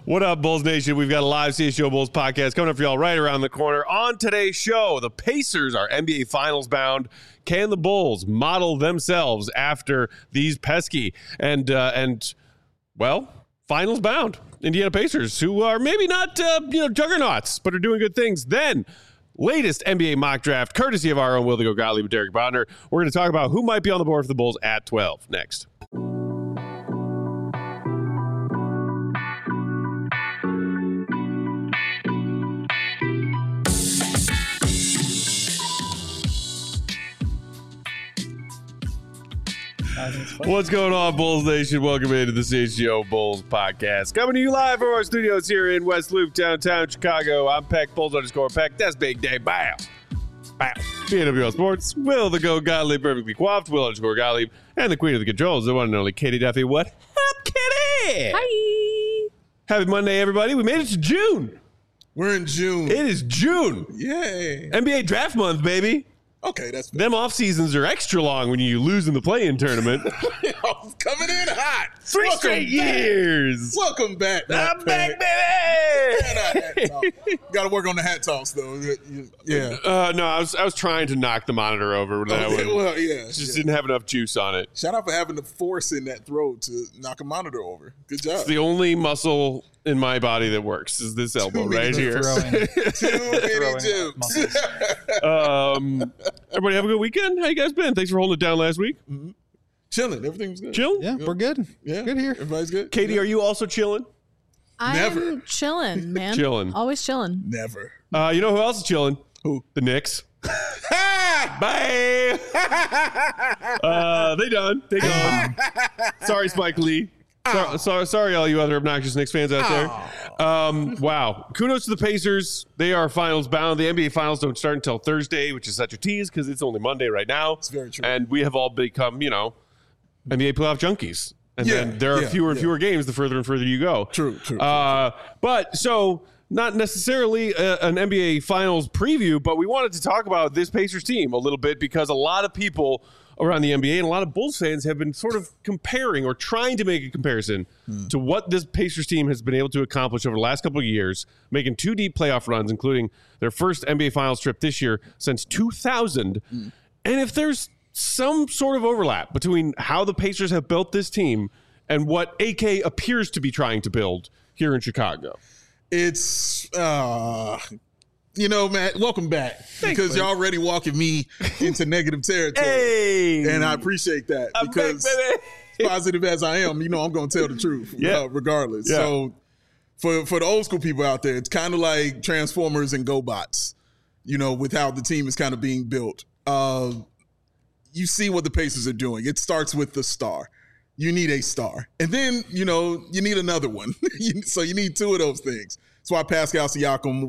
What up, Bulls Nation? We've got a live CSGO Bulls podcast coming up for y'all right around the corner. On today's show, the Pacers are NBA Finals bound. Can the Bulls model themselves after these pesky and finals bound Indiana Pacers, who are maybe not juggernauts, but are doing good things? Then, latest NBA mock draft, courtesy of our own Will the Go Gottlieb and Derek Bodner. We're going to talk about who might be on the board for the Bulls at 12 next. What's going on, Bulls Nation? Welcome into the CHGO Bulls podcast. Coming to you live from our studios here in West Loop, downtown Chicago. I'm Peck, Bulls_Peck. That's Big Day. Bow. Bow. BNWL Sports. Will the Go Gottlieb, perfectly coiffed. Will_Gottlieb. And the queen of the controls, the one and only Katie Duffy. What up, Katie? Hi. Happy Monday, everybody. We made it to June. We're in June. It is June. Yay. NBA draft month, baby. Okay, that's fair. Them off seasons are extra long when you lose in the play-in tournament. Coming in hot. Three straight years. Welcome back. I'm back, baby. Got to work on the hat toss, though. Yeah. No, I was trying to knock the monitor over with that one. Well, yeah. Just didn't have enough juice on it. Shout out for having the force in that throw to knock a monitor over. Good job. It's the only muscle in my body that works is this elbow right here. Too many jukes. Everybody have a good weekend. How you guys been? Thanks for holding it down last week. Mm-hmm. Chilling. Everything's good. Chilling? Yeah, we're good. Yeah. Good here. Everybody's good. Katie, are you also chilling? Never. I'm chilling, man. Chilling. Always chilling. Never. You know who else is chilling? Who? The Knicks. Bye. They done. They gone. Sorry, Spike Lee. Sorry, all you other obnoxious Knicks fans out there. Wow. Kudos to the Pacers. They are finals bound. The NBA Finals don't start until Thursday, which is such a tease because it's only Monday right now. It's very true. And we have all become, NBA playoff junkies. And then there are fewer and fewer games the further and further you go. True. But so not necessarily an NBA Finals preview, but we wanted to talk about this Pacers team a little bit because a lot of people around the NBA and a lot of Bulls fans have been sort of comparing or trying to make a comparison to what this Pacers team has been able to accomplish over the last couple of years, making 2 deep playoff runs, including their first NBA Finals trip this year since 2000. And if there's some sort of overlap between how the Pacers have built this team and what AK appears to be trying to build here in Chicago. It's, Matt, welcome back. Thanks, because you're already walking me into negative territory. Hey! And I appreciate that because back, as positive as I am, I'm going to tell the truth regardless. Yeah. So for the old school people out there, it's kind of like Transformers and GoBots, with how the team is kind of being built. You see what the Pacers are doing. It starts with the star. You need a star. And then, you need another one. So you need 2 of those things. That's why Pascal Siakam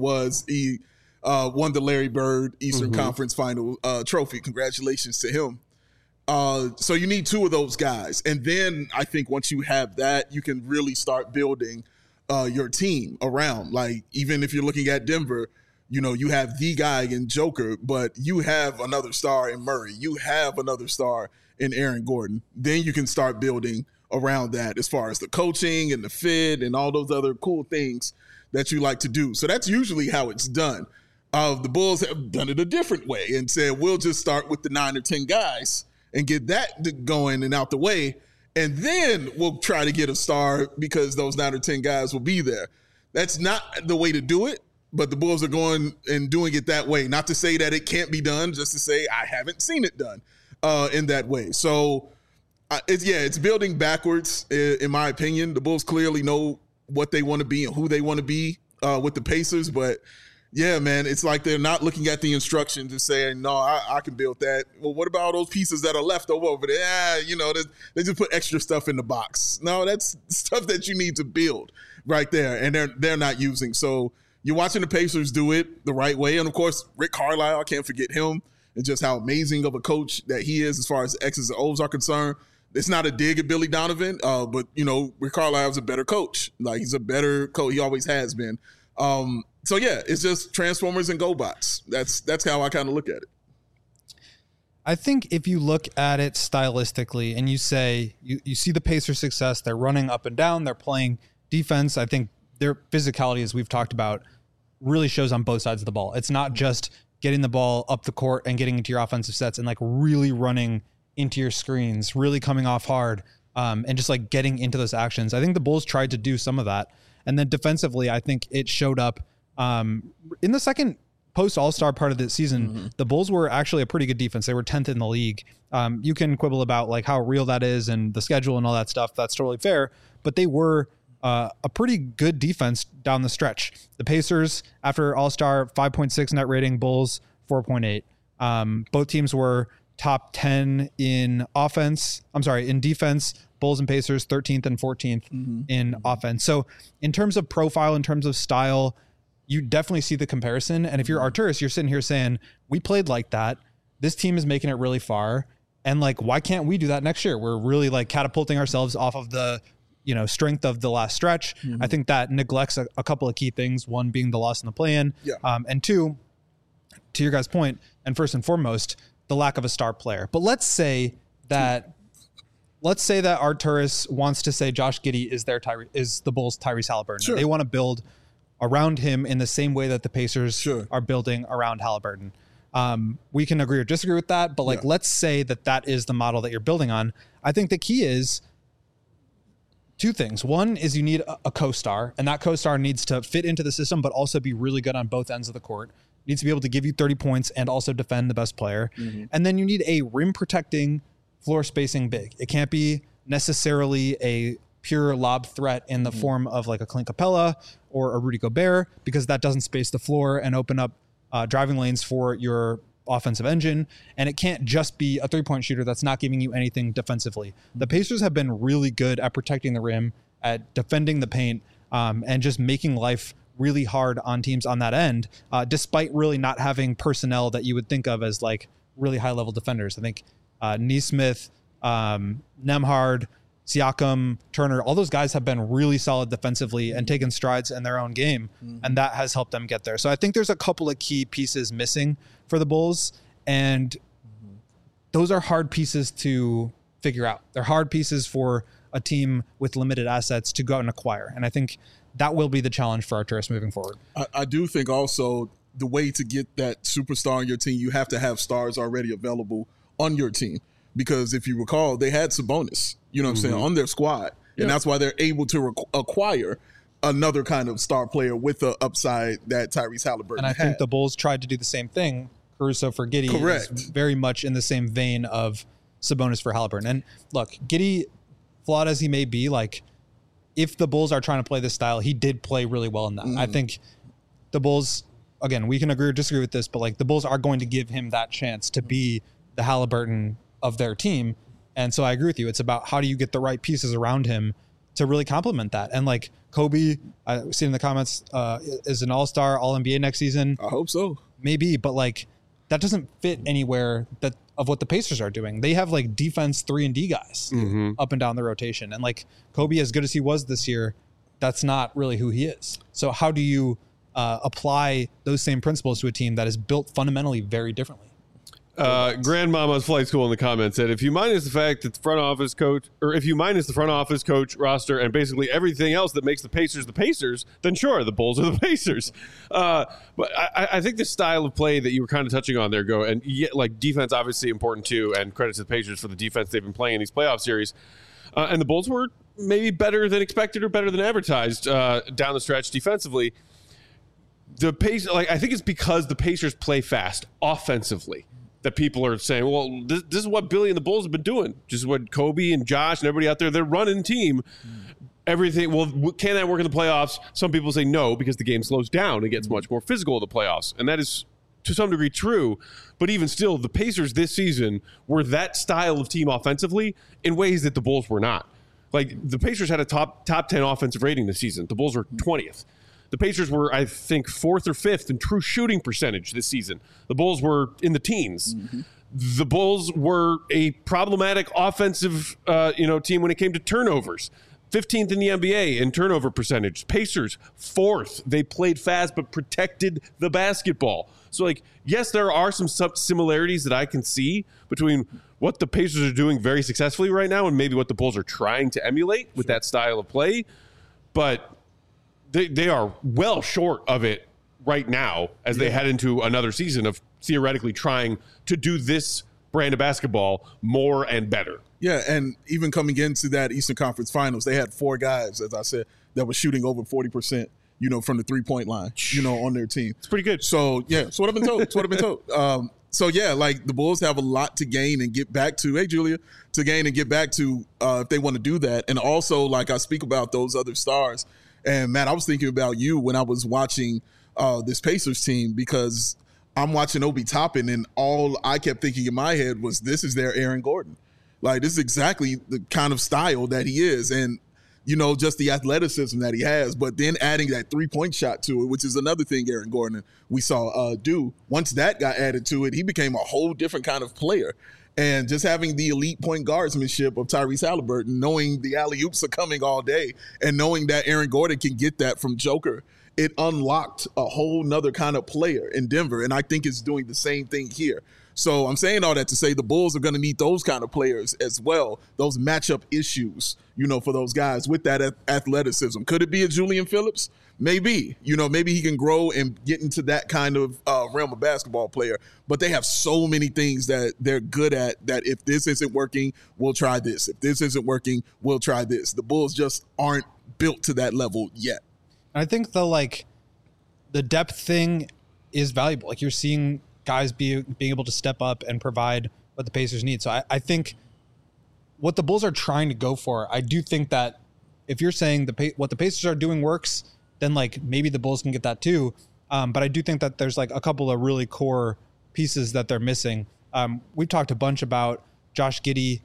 won the Larry Bird Eastern Conference Final trophy. Congratulations to him. So you need 2 of those guys. And then I think once you have that, you can really start building your team around. Like, even if you're looking at Denver, you have the guy in Joker, but you have another star in Murray. You have another star in Aaron Gordon. Then you can start building around that as far as the coaching and the fit and all those other cool things that you like to do. So that's usually how it's done. The Bulls have done it a different way and said, we'll just start with the 9 or 10 guys and get that going and out the way. And then we'll try to get a star because those 9 or 10 guys will be there. That's not the way to do it, but the Bulls are going and doing it that way. Not to say that it can't be done, just to say I haven't seen it done in that way. So, it's building backwards, in my opinion. The Bulls clearly know what they want to be and who they want to be with the Pacers, but yeah, man, it's like they're not looking at the instructions and saying, no, I can build that. Well, what about all those pieces that are left over there? They just put extra stuff in the box. No, that's stuff that you need to build right there, and they're not using. So you're watching the Pacers do it the right way. And, of course, Rick Carlisle, I can't forget him and just how amazing of a coach that he is as far as X's and O's are concerned. It's not a dig at Billy Donovan, but, Rick Carlisle is a better coach. Like, he's a better coach. He always has been. So, yeah, it's just Transformers and GoBots. That's how I kind of look at it. I think if you look at it stylistically and you say you see the Pacers' success, they're running up and down, they're playing defense. I think their physicality, as we've talked about, really shows on both sides of the ball. It's not just getting the ball up the court and getting into your offensive sets and like really running into your screens, really coming off hard, and just like getting into those actions. I think the Bulls tried to do some of that. And then defensively, I think it showed up in the second post All-Star part of the season. The Bulls were actually a pretty good defense. They were 10th in the league. You can quibble about like how real that is and the schedule and all that stuff. That's totally fair. But they were a pretty good defense down the stretch. The Pacers, after All-Star, 5.6 net rating, Bulls 4.8. Both teams were top 10 in defense. Bulls and Pacers 13th and 14th in offense. So in terms of profile, in terms of style, you definitely see the comparison. And if you're Arturas, you're sitting here saying, we played like that. This team is making it really far. And like, why can't we do that next year? We're really like catapulting ourselves off of the, strength of the last stretch. I think that neglects a couple of key things. One being the loss in the play-in. And two, to your guys' point, and first and foremost, the lack of a star player. But let's say that Arturas wants to say Josh Giddey is the Bulls' Tyrese Halliburton. Sure. They want to build around him in the same way that the Pacers are building around Halliburton. We can agree or disagree with that, but let's say that is the model that you're building on. I think the key is two things. One is you need a co-star, and that co-star needs to fit into the system, but also be really good on both ends of the court. Needs to be able to give you 30 points and also defend the best player. And then you need a rim protecting, floor spacing big. It can't be necessarily a pure lob threat in the form of like a Clint Capella or a Rudy Gobert, because that doesn't space the floor and open up driving lanes for your offensive engine. And it can't just be a 3-point shooter that's not giving you anything defensively. The Pacers have been really good at protecting the rim, at defending the paint, and just making life really hard on teams on that end, despite really not having personnel that you would think of as like really high level defenders. I think Nesmith, Nembhard, Siakam, Turner, all those guys have been really solid defensively and taken strides in their own game. And that has helped them get there. So I think there's a couple of key pieces missing for the Bulls. And those are hard pieces to figure out. They're hard pieces for a team with limited assets to go out and acquire. And I think that will be the challenge for Arturas moving forward. I do think also the way to get that superstar on your team, you have to have stars already available on your team. Because if you recall, they had Sabonis, on their squad. And that's why they're able to acquire another kind of star player with the upside that Tyrese Halliburton had. And I think the Bulls tried to do the same thing. Caruso for Giddey is very much in the same vein of Sabonis for Halliburton. And look, Giddey, flawed as he may be, like, if the Bulls are trying to play this style, he did play really well in that. I think the Bulls, again, we can agree or disagree with this, but like the Bulls are going to give him that chance to be the Halliburton of their team. And so I agree with you. It's about how do you get the right pieces around him to really complement that. And like Kobe, I see in the comments, is an all-star, all-NBA next season. I hope so. Maybe, but like that doesn't fit anywhere of what the Pacers are doing. They have like defense 3-and-D guys up and down the rotation. And like Kobe, as good as he was this year, that's not really who he is. So how do you apply those same principles to a team that is built fundamentally very differently? Grandmama's Flight School in the comments said, if you minus the fact that the front office coach roster and basically everything else that makes the Pacers, then sure, the Bulls are the Pacers. But I think the style of play that you were kind of touching on there, Go, and like defense obviously important too, and credit to the Pacers for the defense they've been playing in these playoff series. And the Bulls were maybe better than expected or better than advertised down the stretch defensively. The pace, like I think it's because the Pacers play fast offensively that people are saying, well, this is what Billy and the Bulls have been doing. Just what Kobe and Josh and everybody out there, they're running team. Everything, well, can that work in the playoffs? Some people say no, because the game slows down. It gets much more physical in the playoffs. And that is, to some degree, true. But even still, the Pacers this season were that style of team offensively in ways that the Bulls were not. Like, the Pacers had a top 10 offensive rating this season. The Bulls were 20th. The Pacers were, I think, 4th or 5th in true shooting percentage this season. The Bulls were in the teens. The Bulls were a problematic offensive team when it came to turnovers. 15th in the NBA in turnover percentage. Pacers, 4th. They played fast but protected the basketball. So, like, yes, there are some similarities that I can see between what the Pacers are doing very successfully right now and maybe what the Bulls are trying to emulate with that style of play. But they are well short of it right now as they head into another season of theoretically trying to do this brand of basketball more and better. Yeah, and even coming into that Eastern Conference Finals, they had 4 guys, as I said, that were shooting over 40%, from the three-point line, on their team. It's pretty good. So, yeah, that's what I've been told. That's what I've been told. So, yeah, like the Bulls have a lot to gain and get back to. Hey, Julia, to gain and get back to if they want to do that. And also, like I speak about those other stars. And, Matt, I was thinking about you when I was watching this Pacers team because I'm watching Obi Toppin, and all I kept thinking in my head was this is their Aaron Gordon. Like, this is exactly the kind of style that he is. And, just the athleticism that he has, but then adding that three-point shot to it, which is another thing Aaron Gordon we saw do. Once that got added to it, he became a whole different kind of player. And just having the elite point guardsmanship of Tyrese Halliburton, knowing the alley-oops are coming all day, and knowing that Aaron Gordon can get that from Joker, it unlocked a whole nother kind of player in Denver. And I think it's doing the same thing here. So I'm saying all that to say the Bulls are going to need those kind of players as well, those matchup issues, for those guys with that athleticism. Could it be a Julian Phillips? Maybe. Maybe he can grow and get into that kind of realm of basketball player. But they have so many things that they're good at that if this isn't working, we'll try this. If this isn't working, we'll try this. The Bulls just aren't built to that level yet. I think the depth thing is valuable. Like you're seeing guys being able to step up and provide what the Pacers need. So I think what the Bulls are trying to go for, I do think that if you're saying what the Pacers are doing works, then like maybe the Bulls can get that too. But I do think that there's like a couple of really core pieces that they're missing. We've talked a bunch about Josh Giddey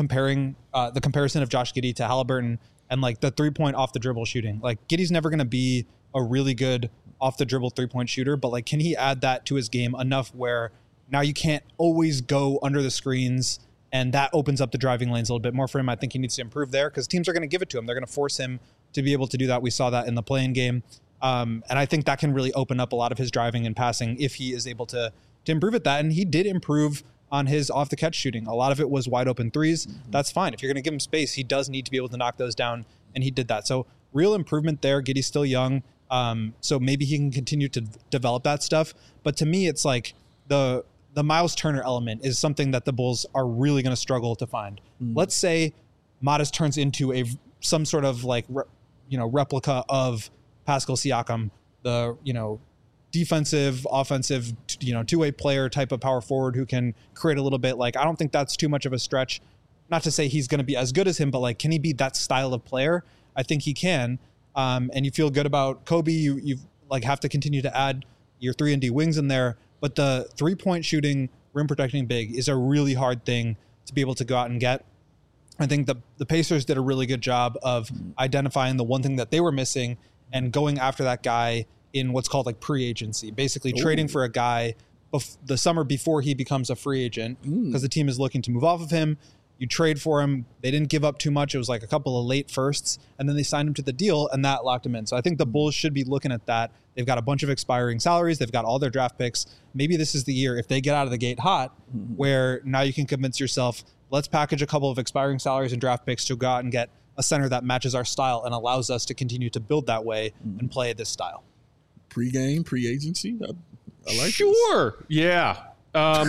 the comparison of Josh Giddey to Halliburton and like the 3-point off the dribble shooting. Like Giddey's never going to be a really good off the dribble 3-point shooter, but like, can he add that to his game enough where now you can't always go under the screens and that opens up the driving lanes a little bit more for him? I think he needs to improve there because teams are going to give it to him. They're going to force him to be able to do that. We saw that in the play-in game. And I think that can really open up a lot of his driving and passing if he is able to improve at that. And he did improve on his off the catch shooting. A lot of it was wide open threes. Mm-hmm. That's fine. If you're going to give him space, he does need to be able to knock those down. And he did that. So real improvement there. Giddey's still young. So maybe he can continue to develop that stuff. But to me, it's like the Miles Turner element is something that the Bulls are really going to struggle to find. Mm. Let's say Modest turns into some sort of like, replica of Pascal Siakam, the, defensive, offensive, two-way player type of power forward who can create a little bit. Like, I don't think that's too much of a stretch. Not to say he's going to be as good as him, but like, can he be that style of player? I think he can. And you feel good about Kobe. You like have to continue to add your 3-and-D wings in there, but the 3-point shooting, rim protecting big is a really hard thing to be able to go out and get. I think the Pacers did a really good job of identifying the one thing that they were missing and going after that guy in what's called like pre-agency, basically trading for a guy the summer before he becomes a free agent because the team is looking to move off of him. You trade for him. They didn't give up too much. It was like a couple of late firsts, and then they signed him to the deal, and that locked him in. So I think the Bulls should be looking at that. They've got a bunch of expiring salaries. They've got all their draft picks. Maybe this is the year, if they get out of the gate hot, where now you can convince yourself, let's package a couple of expiring salaries and draft picks to go out and get a center that matches our style and allows us to continue to build that way and play this style. Pre-game, pre-agency? I like Sure. This. Yeah. No,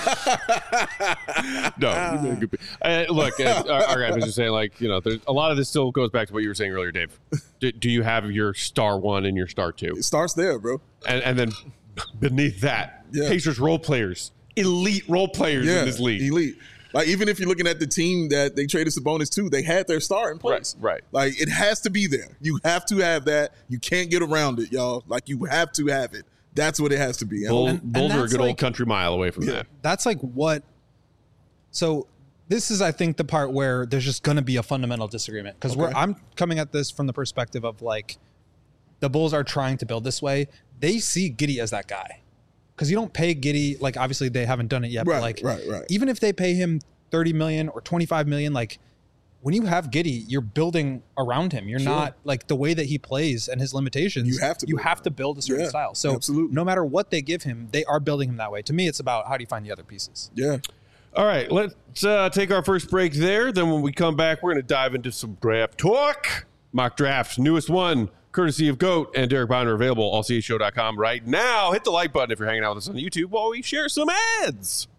look, our guy was just saying, like, there's a lot of this still goes back to what you were saying earlier, Dave. Do you have your star 1 and your star 2? It starts there, bro. And then beneath that, Pacers role players, elite role players in this league. Elite. Like, even if you're looking at the team that they traded Sabonis to, they had their star in place. Right. Like, it has to be there. You have to have that. You can't get around it, y'all. Like, you have to have it. That's what it has to be. Bulls are a good old country mile away from that. That's like what. So this is, I think, the part where there's just going to be a fundamental disagreement because I'm coming at this from the perspective of like the Bulls are trying to build this way. They see Giddey as that guy because you don't pay Giddey. Like, obviously they haven't done it yet, but like even if they pay him $30 million or $25 million, like when you have Giddey, you're building around him. You're not like the way that he plays and his limitations. You have to build a certain style. So no matter what they give him, they are building him that way. To me, it's about how do you find the other pieces. Yeah. All right, let's take our first break there. Then when we come back, we're going to dive into some draft talk. mock draft, newest one, courtesy of GOAT and Derek Bonder, available allchshow.com right now. Hit the like button if you're hanging out with us on YouTube while we share some ads.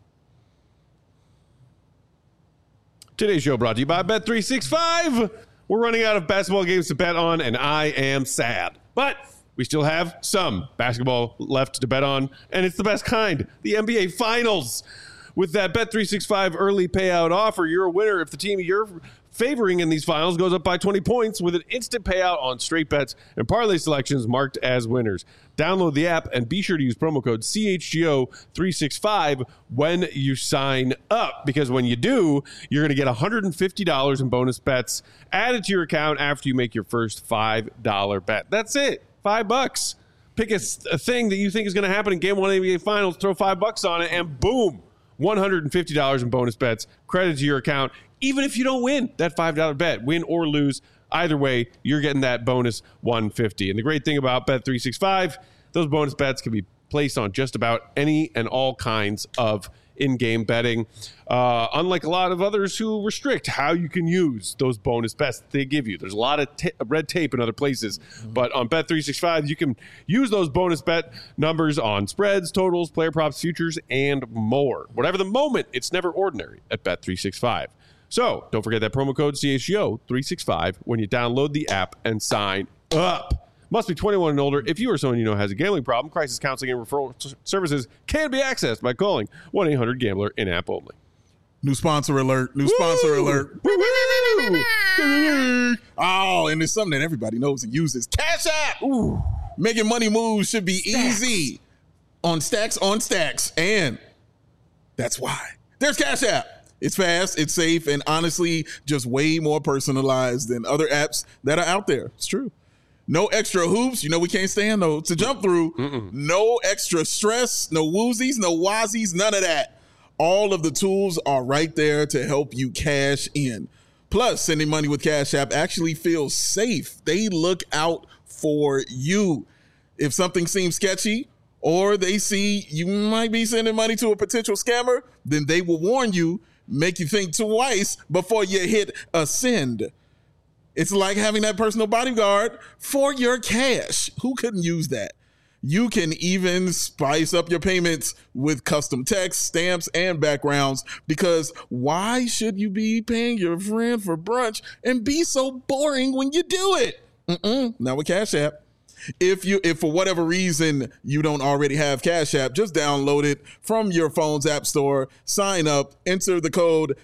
Today's show brought to you by Bet365. We're running out of basketball games to bet on, and I am sad. But we still have some basketball left to bet on, and it's the best kind, the NBA Finals. With that Bet365 early payout offer, you're a winner if the team you're favoring in these finals goes up by 20 points with an instant payout on straight bets and parlay selections marked as winners. Download the app and be sure to use promo code CHGO365 when you sign up, because when you do, you're going to get $150 in bonus bets added to your account after you make your first $5 bet. That's it. $5. Pick a thing that you think is going to happen in Game 1 NBA Finals, throw $5 on it, and boom, $150 in bonus bets credited to your account. Even if you don't win that $5 bet, win or lose, either way, you're getting that bonus $150. And the great thing about Bet365, those bonus bets can be placed on just about any and all kinds of in-game betting. Unlike a lot of others who restrict how you can use those bonus bets they give you. There's a lot of red tape in other places. But on Bet365, you can use those bonus bet numbers on spreads, totals, player props, futures, and more. Whatever the moment, it's never ordinary at Bet365. So don't forget that promo code CHGO365 when you download the app and sign up. Must be 21 and older. If you or someone you know has a gambling problem, crisis counseling and referral services can be accessed by calling 1-800-GAMBLER in-app only. New sponsor alert. New sponsor alert. Oh, and it's something that everybody knows and uses. Cash App. Ooh. Making money moves should be easy. On stacks. And that's why. There's Cash App. It's fast, it's safe, and honestly, just way more personalized than other apps that are out there. It's true. No extra hoops. You know we can't stand those to jump through. No extra stress, no woozies, no wazies, none of that. All of the tools are right there to help you cash in. Plus, sending money with Cash App actually feels safe. They look out for you. If something seems sketchy or they see you might be sending money to a potential scammer, then they will warn you, make you think twice before you hit a send. It's like having that personal bodyguard for your cash. Who couldn't use that? You can even spice up your payments with custom text, stamps, and backgrounds, because why should you be paying your friend for brunch and be so boring when you do it? Not with Cash App. If for whatever reason you don't already have Cash App, just download it from your phone's app store, sign up, enter the code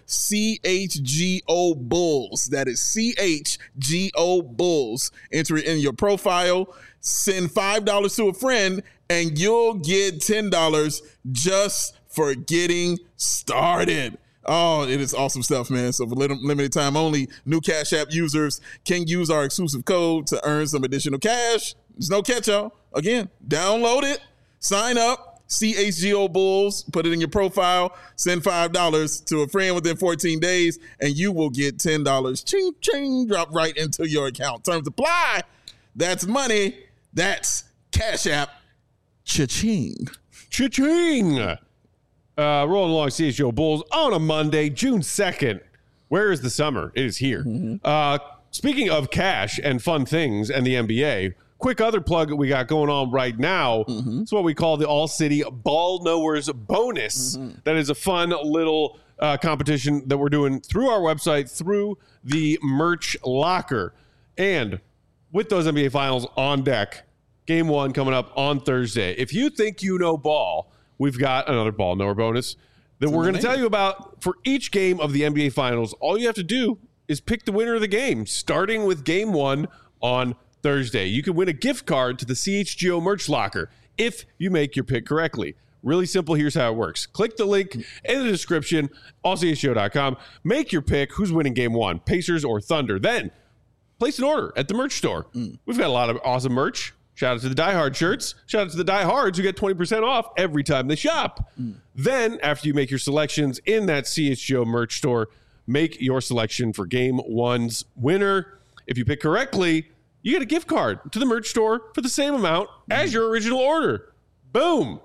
CHGO Bulls. That is CHGO Bulls. Enter it in your profile, send $5 to a friend, and you'll get $10 just for getting started. Oh, it is awesome stuff, man. So for limited time only, new Cash App users can use our exclusive code to earn some additional cash. There's no catch, y'all. Again, download it, sign up, CHGO Bulls, put it in your profile, send $5 to a friend within 14 days, and you will get $10. Ching, ching, drop right into your account. Terms apply. That's money. That's Cash App. Cha-ching. Cha-ching. Rolling along CHGO Bulls on a Monday, June 2nd. Where is the summer? It is here. Speaking of cash and fun things and the NBA, quick other plug that we got going on right now. It's what we call the All City Ball Knowers Bonus. That is a fun little competition that we're doing through our website, through the merch locker. And with those NBA Finals on deck, Game 1 coming up on Thursday. If you think you know ball, we've got another Ball Knower bonus that we're going to tell you about for each game of the NBA Finals. All you have to do is pick the winner of the game, starting with Game 1 on Thursday. You can win a gift card to the CHGO merch locker if you make your pick correctly. Really simple. Here's how it works. Click the link in the description, allchshow.com. Make your pick. Who's winning Game 1, Pacers or Thunder? Then place an order at the merch store. We've got a lot of awesome merch. Shout out to the Die Hard shirts. Shout out to the Die Hards who get 20% off every time they shop. Then, after you make your selections in that CHGO merch store, make your selection for Game 1's winner. If you pick correctly, you get a gift card to the merch store for the same amount as your original order. Boom.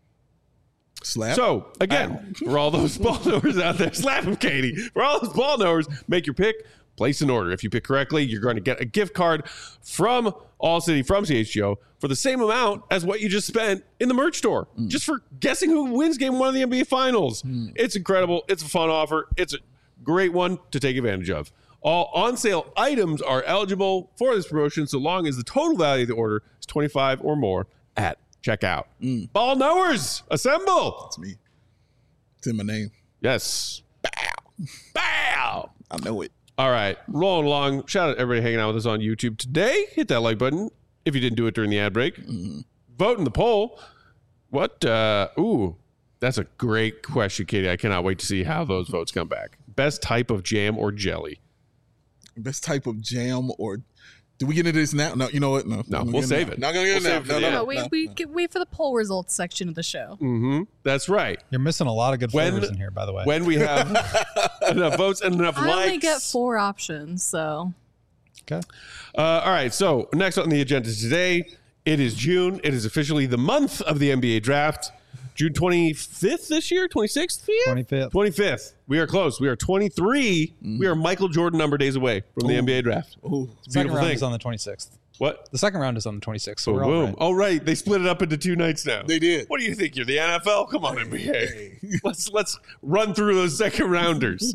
Slap. So, again, for all those ball knowers out there, slap them, Katie. For all those ball knowers, make your pick. Place an order. If you pick correctly, you're going to get a gift card from All City, from CHGO, for the same amount as what you just spent in the merch store, just for guessing who wins Game 1 of the NBA Finals. It's incredible. It's a fun offer. It's a great one to take advantage of. All on-sale items are eligible for this promotion so long as the total value of the order is $25 or more at checkout. Ball knowers, assemble. That's me. It's in my name. Yes. Bow. Bow. I know it. All right. Rolling along. Shout out to everybody hanging out with us on YouTube today. Hit that like button if you didn't do it during the ad break. Vote in the poll. What? That's a great question, Katie. I cannot wait to see how those votes come back. Best type of jam or jelly? Best type of jam or... Do we get into this now? No, you know what? No, we'll save it. Not going to get We'll it save it now. for the end. We wait for the poll results section of the show. That's right. You're missing a lot of good flavors in here, by the way. When we have enough votes and enough I likes. only get 4 options, so. Okay. All right. So next on the agenda today, it is June. It is officially the month of the NBA draft. June 25th this year? 26th? 25th. 25th. We are close. We are 23. We are Michael Jordan number days away from the NBA draft. It's a Second beautiful round thing. is on the 26th. What? The second round is on the 26th. So we're all Boom. right. Oh, right. They split it up into 2 nights now. They did. What do you think? You're the NFL? Come on, NBA. Let's run through those second rounders.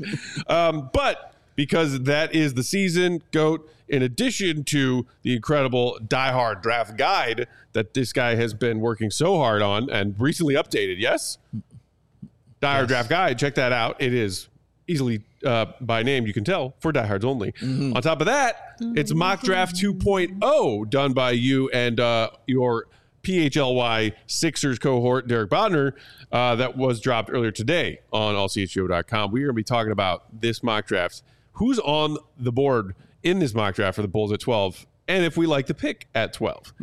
But because that is the season, GOAT, in addition to the incredible Die Hard draft guide that this guy has been working so hard on and recently updated, yes? Die Hard draft guide. Check that out. It is easily by name, you can tell, for diehards only. On top of that, it's Mock Draft 2.0 done by you and your PHLY Sixers cohort, Derek Bodner, that was dropped earlier today on allchgo.com. We're going to be talking about this mock draft. Who's on the board in this mock draft for the Bulls at 12, and if we like the pick at 12.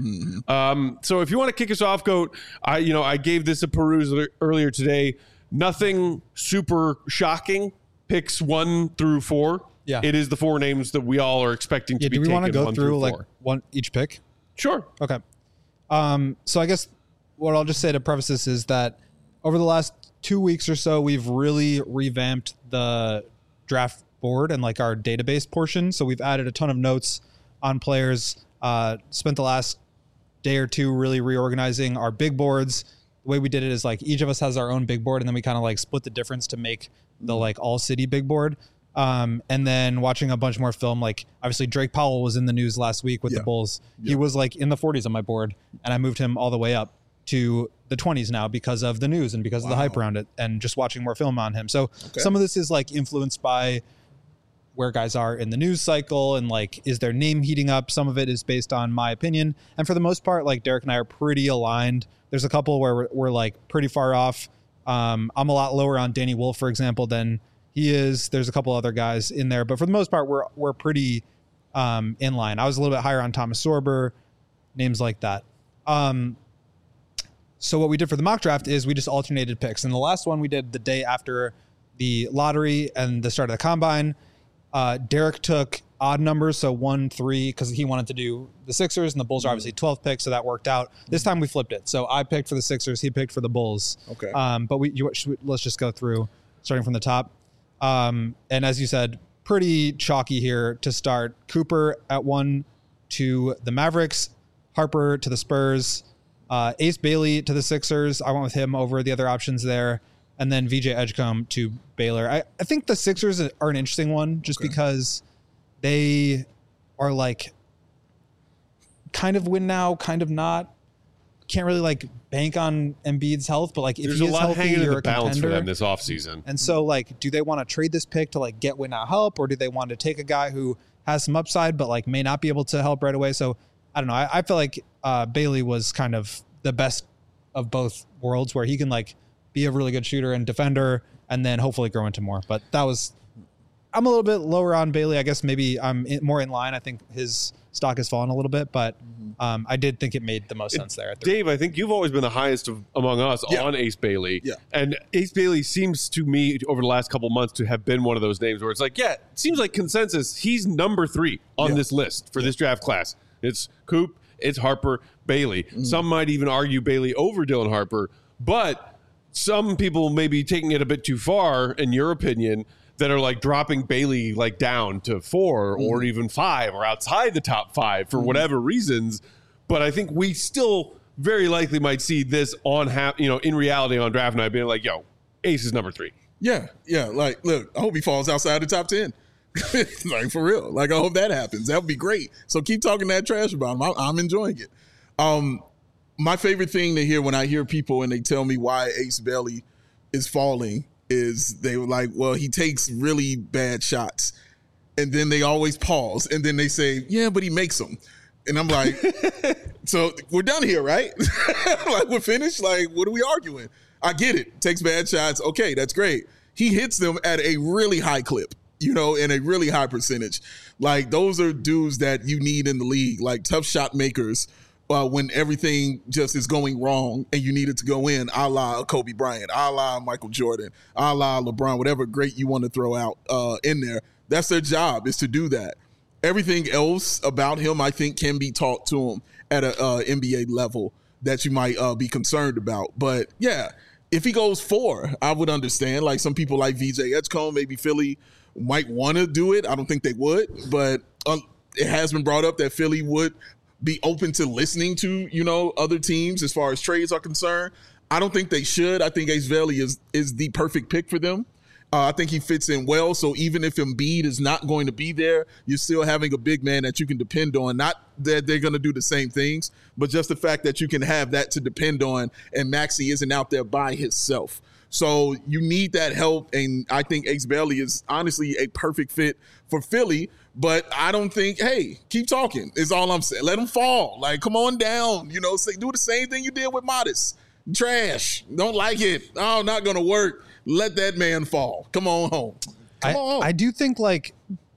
So if you want to kick us off, GOAT, I gave this a peruse earlier today. Nothing super shocking. Picks 1 through 4. Yeah. It is the 4 names that we all are expecting to be do we taken. want to go 1 through like 4. one each pick? Sure. Okay. So I guess what I'll just say to preface this is that over the last 2 weeks or so, we've really revamped the draft board and like our database portion. So we've added a ton of notes on players, spent the last day or two really reorganizing our big boards. The way we did it is like each of us has our own big board, and then we kind of like split the difference to make the like all city big board. And then watching a bunch more film, like obviously Drake Powell was in the news last week with the Bulls. He was like in the 40s on my board, and I moved him all the way up to the 20s now because of the news and because of the hype around it and just watching more film on him. So some of this is like influenced by where guys are in the news cycle and like, is their name heating up? Some of it is based on my opinion. And for the most part, like Derek and I are pretty aligned. There's a couple where we're like pretty far off. I'm a lot lower on Danny Wolf, for example, than he is. There's a couple other guys in there, but for the most part, we're pretty in line. I was a little bit higher on Thomas Sorber, names like that. So what we did for the mock draft is we just alternated picks. And the last one we did the day after the lottery and the start of the combine. Derek took odd numbers, so 1, 3, because he wanted to do the Sixers, and the Bulls are obviously 12 picks, so that worked out. This time we flipped it. So I picked for the Sixers, he picked for the Bulls. Okay. But let's just go through, starting from the top. And as you said, pretty chalky here to start. Cooper at 1 to the Mavericks, Harper to the Spurs, Ace Bailey to the Sixers. I went with him over the other options there. And then VJ Edgecombe to Baylor. I think the Sixers are an interesting one just because they are like kind of win now, kind of not. Can't really like bank on Embiid's health, but like if There's he a is lot healthy, hanging in you're the a balance for contender. them this offseason. And so like, do they want to trade this pick to like get win now help, or do they want to take a guy who has some upside but like may not be able to help right away? So I don't know. I feel like Bailey was kind of the best of both worlds, where he can like be a really good shooter and defender and then hopefully grow into more. But that was, I'm a little bit lower on Bailey. I guess maybe I'm more in line. I think his stock has fallen a little bit, but I did think it made the most sense there. Dave, I think you've always been the highest among us on Ace Bailey. Yeah. And Ace Bailey seems to me over the last couple months to have been one of those names where it's like, it seems like consensus. He's number 3 on this list for this draft class. It's Coop, it's Harper, Bailey. Some might even argue Bailey over Dylan Harper, but some people may be taking it a bit too far, in your opinion, that are like dropping Bailey like down to 4 or even 5 or outside the top 5 for whatever reasons. But I think we still very likely might see this in reality on draft night being like, yo, Ace is number 3. Yeah. Like, look, I hope he falls outside the top 10. Like, for real. Like, I hope that happens. That would be great. So keep talking that trash about him. I'm enjoying it. My favorite thing to hear when I hear people and they tell me why Ace Bailey is falling is they were like, well, he takes really bad shots. And then they always pause. And then they say, yeah, but he makes them. And I'm like, so we're done here, right? Like, we're finished? Like, what are we arguing? I get it. Takes bad shots. Okay, that's great. He hits them at a really high clip, and a really high percentage. Like, those are dudes that you need in the league, like tough shot makers when everything just is going wrong and you need it to go in, a la Kobe Bryant, a la Michael Jordan, a la LeBron, whatever great you want to throw out in there. That's their job, is to do that. Everything else about him, I think, can be taught to him at a NBA level that you might be concerned about. But, yeah, if he goes 4, I would understand. Like, some people like VJ Edgecombe, maybe Philly might want to do it. I don't think they would. But it has been brought up that Philly would be open to listening to, other teams as far as trades are concerned. I don't think they should. I think Ace Bailey is the perfect pick for them. I think he fits in well. So even if Embiid is not going to be there, you're still having a big man that you can depend on. Not that they're going to do the same things, but just the fact that you can have that to depend on, and Maxey isn't out there by himself. So you need that help, and I think Ace Bailey is honestly a perfect fit for Philly. But I don't think, hey, keep talking is all I'm saying. Let him fall. Like, come on down. Do the same thing you did with Modest. Trash. Don't like it. Oh, not going to work. Let that man fall. Come on home. I do think, like,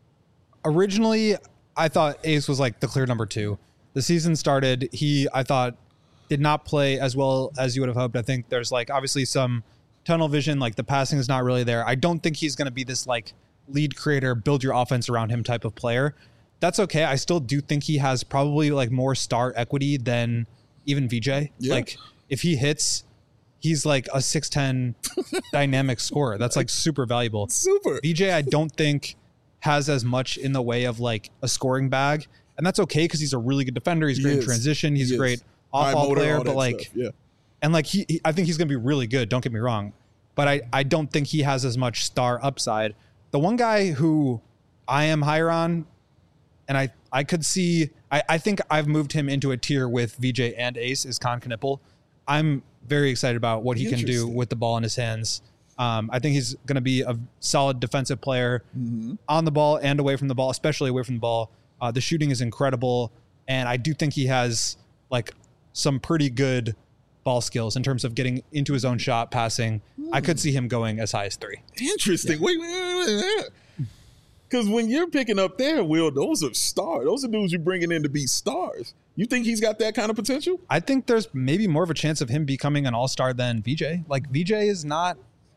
originally I thought Ace was like the clear number 2. The season started. I thought, did not play as well as you would have hoped. I think there's, like, obviously some tunnel vision. Like, the passing is not really there. I don't think he's going to be this, like, lead creator, build your offense around him type of player. That's okay. I still do think he has probably, like, more star equity than even VJ. Yeah. Like, if he hits, he's like a 6'10" dynamic scorer. That's like super valuable. Super. VJ, I don't think has as much in the way of like a scoring bag. And that's okay because he's a really good defender. He's great in transition. He's a great off-ball player. But like, stuff. Yeah. And like I think he's going to be really good. Don't get me wrong. But I don't think he has as much star upside. The one guy who I am higher on, and I could see, I think I've moved him into a tier with VJ and Ace, is Con Knippel. I'm very excited about what he can do with the ball in his hands. I think he's going to be a solid defensive player on the ball and away from the ball, especially away from the ball. The shooting is incredible. And I do think he has like some pretty good ball skills in terms of getting into his own shot, passing. I could see him going as high as 3. Interesting. Yeah. Wait. Because when you're picking up there, Will, those are stars. Those are dudes you're bringing in to be stars. You think he's got that kind of potential? I think there's maybe more of a chance of him becoming an all-star than VJ. Like, VJ is not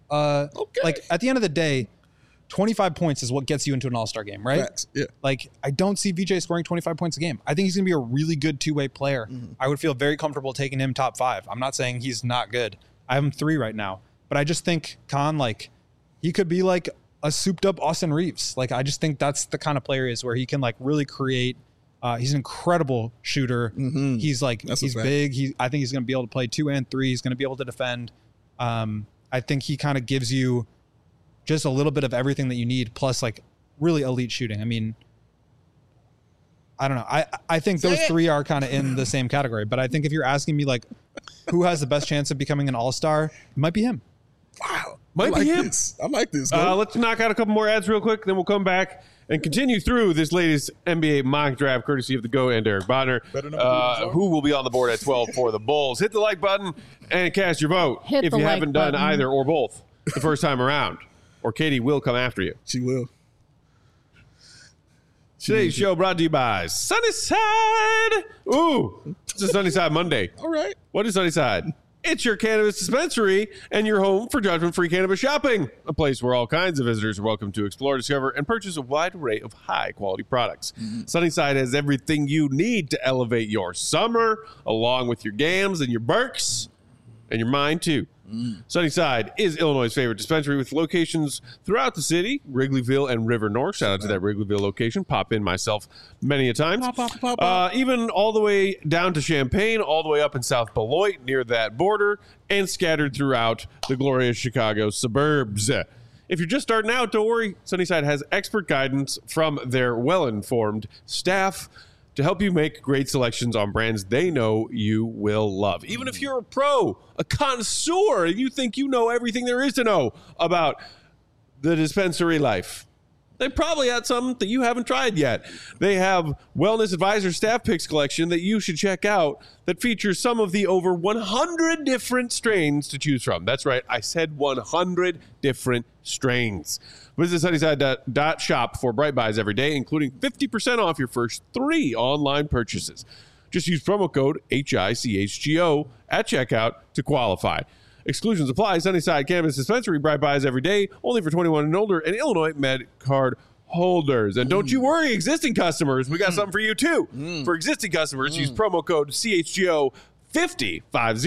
like, at the end of the day, 25 points is what gets you into an all-star game, right? Facts. Yeah. Like, I don't see VJ scoring 25 points a game. I think he's going to be a really good two-way player. I would feel very comfortable taking him top 5. I'm not saying he's not good. I have him 3 right now. But I just think Con, like, he could be like a souped-up Austin Reeves. Like, I just think that's the kind of player he is, where he can like really create. He's an incredible shooter. He's like, he's big. I think he's going to be able to play 2 and 3. He's going to be able to defend. I think he kind of gives you just a little bit of everything that you need, plus like really elite shooting. I mean, I don't know. I think those 3 are kind of in the same category, but I think if you're asking me like who has the best chance of becoming an all-star, it might be him. Wow. Might be him. I like this. Let's knock out a couple more ads real quick, then we'll come back and continue through this latest NBA mock draft, courtesy of the GOAT and Derek Bodner, who will be on the board at 12 for the Bulls. Hit the like button and cast your vote if you haven't done either or both the first time around, or Katie will come after you. She will. Today's show brought to you by Sunnyside. Ooh, it's a Sunnyside Monday. All right. What is Sunnyside? It's your cannabis dispensary and your home for judgment-free cannabis shopping. A place where all kinds of visitors are welcome to explore, discover, and purchase a wide array of high-quality products. Sunnyside has everything you need to elevate your summer, along with your gams and your Berks, and your mind, too. Sunnyside is Illinois' favorite dispensary with locations throughout the city, Wrigleyville and River North. Shout out to that Wrigleyville location. Pop in myself many a times. Even all the way down to Champaign, all the way up in South Beloit near that border, and scattered throughout the glorious Chicago suburbs. If you're just starting out, don't worry. Sunnyside has expert guidance from their well-informed staff to help you make great selections on brands they know you will love. Even if you're a pro, a connoisseur, and you think you know everything there is to know about the dispensary life, they probably had something that you haven't tried yet. They have Wellness Advisor Staff Picks collection that you should check out that features some of the over 100 different strains to choose from. That's right, I said 100 different strains. Visit Sunnyside.shop for Bright Buys every day, including 50% off your first 3 online purchases. Just use promo code HICHGO at checkout to qualify. Exclusions apply. Sunnyside Cannabis Dispensary, Bright Buys every day, only for 21 and older, and Illinois Med Card holders. And don't you worry, existing customers, we got something for you too. For existing customers, use promo code CHGO50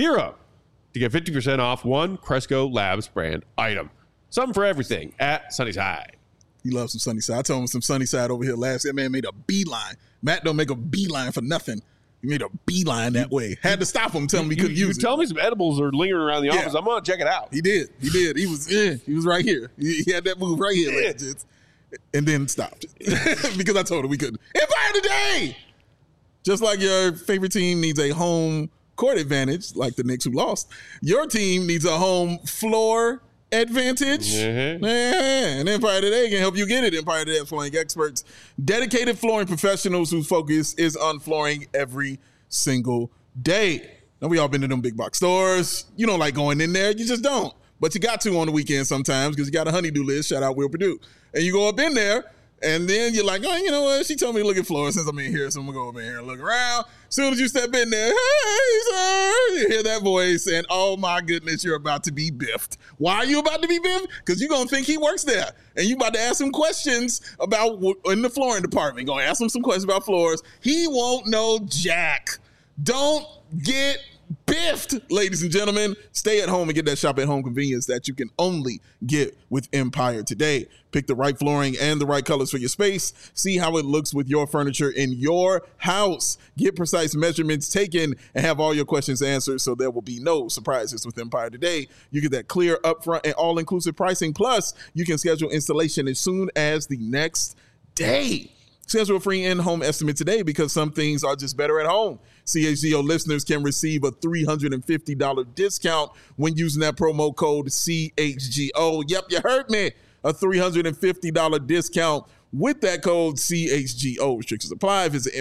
to get 50% off one Cresco Labs brand item. Something for everything at Sunnyside. He loves some Sunnyside. I told him some Sunnyside over here last. That man made a beeline. Matt don't make a beeline for nothing. He made a beeline that way. Had to stop him, tell him he couldn't use it. You tell me some edibles are lingering around the office. I'm going to check it out. He did. He was right here. He had that move right here. And then stopped. Because I told him we couldn't. Empire Today! Just like your favorite team needs a home court advantage, like the Knicks who lost, your team needs a home floor advantage. And Empire Today can help you get it. Empire Today flooring experts, dedicated flooring professionals whose focus is on flooring every single day. Now, we all been to them big box stores. You don't like going in there. You just don't. But you got to on the weekend sometimes because you got a honey-do list. Shout out Will Purdue. And you go up in there, and then you're like, oh, you know what? She told me to look at floors since I'm in here, so I'm going to go over here and look around. As soon as you step in there, hey, sir, you hear that voice, and oh, my goodness, you're about to be biffed. Why are you about to be biffed? Because you're going to think he works there, and you about to ask him questions about in the flooring department. You're going to ask him some questions about floors. He won't know jack. Don't get biffed, ladies and gentlemen. Stay at home and get that shop at home convenience that you can only get with Empire Today. Pick the right flooring and the right colors for your space. See how it looks with your furniture in your house. Get precise measurements taken and have all your questions answered so there will be no surprises with Empire Today. You get that clear, upfront, and all-inclusive pricing. Plus, you can schedule installation as soon as the next day. Schedule a free in-home estimate today because some things are just better at home. CHGO listeners can receive a $350 discount when using that promo code CHGO. Yep, you heard me. A $350 discount with that code CHGO. Restrictions apply. Visit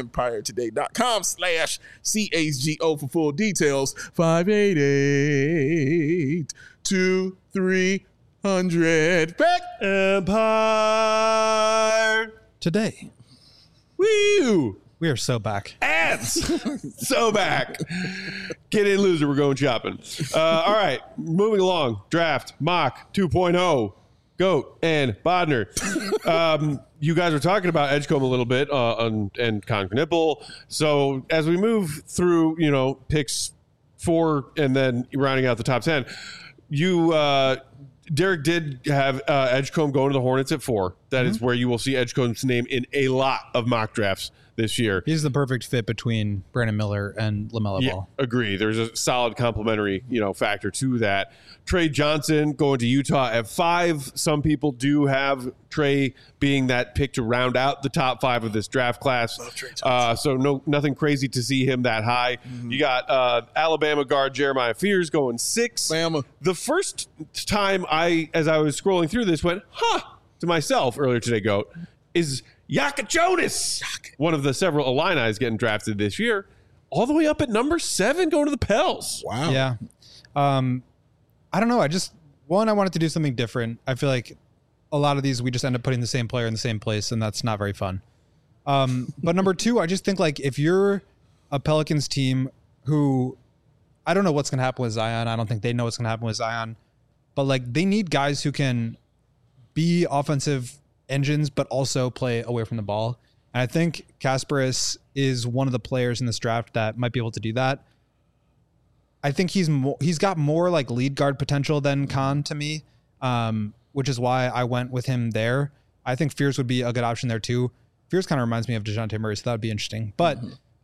empiretoday.com/CHGO for full details. 588-2300. Back Empire Today. Woo! We are so back. Ads! So back. Get in, loser. We're going shopping. All right. Moving along. Draft. Mock 2.0. Goat and Bodner. You guys were talking about Edgecombe a little bit and Con Knipple. So as we move through, picks 4 and then rounding out the top 10, Derek did have Edgecombe going to the Hornets at 4. That is where you will see Edgecombe's name in a lot of mock drafts this year. He's the perfect fit between Brandon Miller and LaMelo Ball. Agree. There's a solid complementary, factor to that. Trey Johnson going to Utah at 5. Some people do have Trey being that pick to round out the top 5 of this draft class. So nothing crazy to see him that high. You got Alabama guard Jeremiah Fears going 6. Bama. The first time as I was scrolling through this, went, to myself earlier today, Goat, is Yaka Jonas, one of the several Illini getting drafted this year, all the way up at number 7 going to the Pels. Wow. Yeah. I don't know. I wanted to do something different. I feel like a lot of these, we just end up putting the same player in the same place, and that's not very fun. But number 2, I just think like if you're a Pelicans team who, I don't know what's going to happen with Zion. I don't think they know what's going to happen with Zion, but like they need guys who can be offensive engines, but also play away from the ball. And I think Kasparis is one of the players in this draft that might be able to do that. I think he's got more like lead guard potential than Khan to me, which is why I went with him there. I think Fears would be a good option there too. Fears kind of reminds me of DeJounte Murray, so that would be interesting. But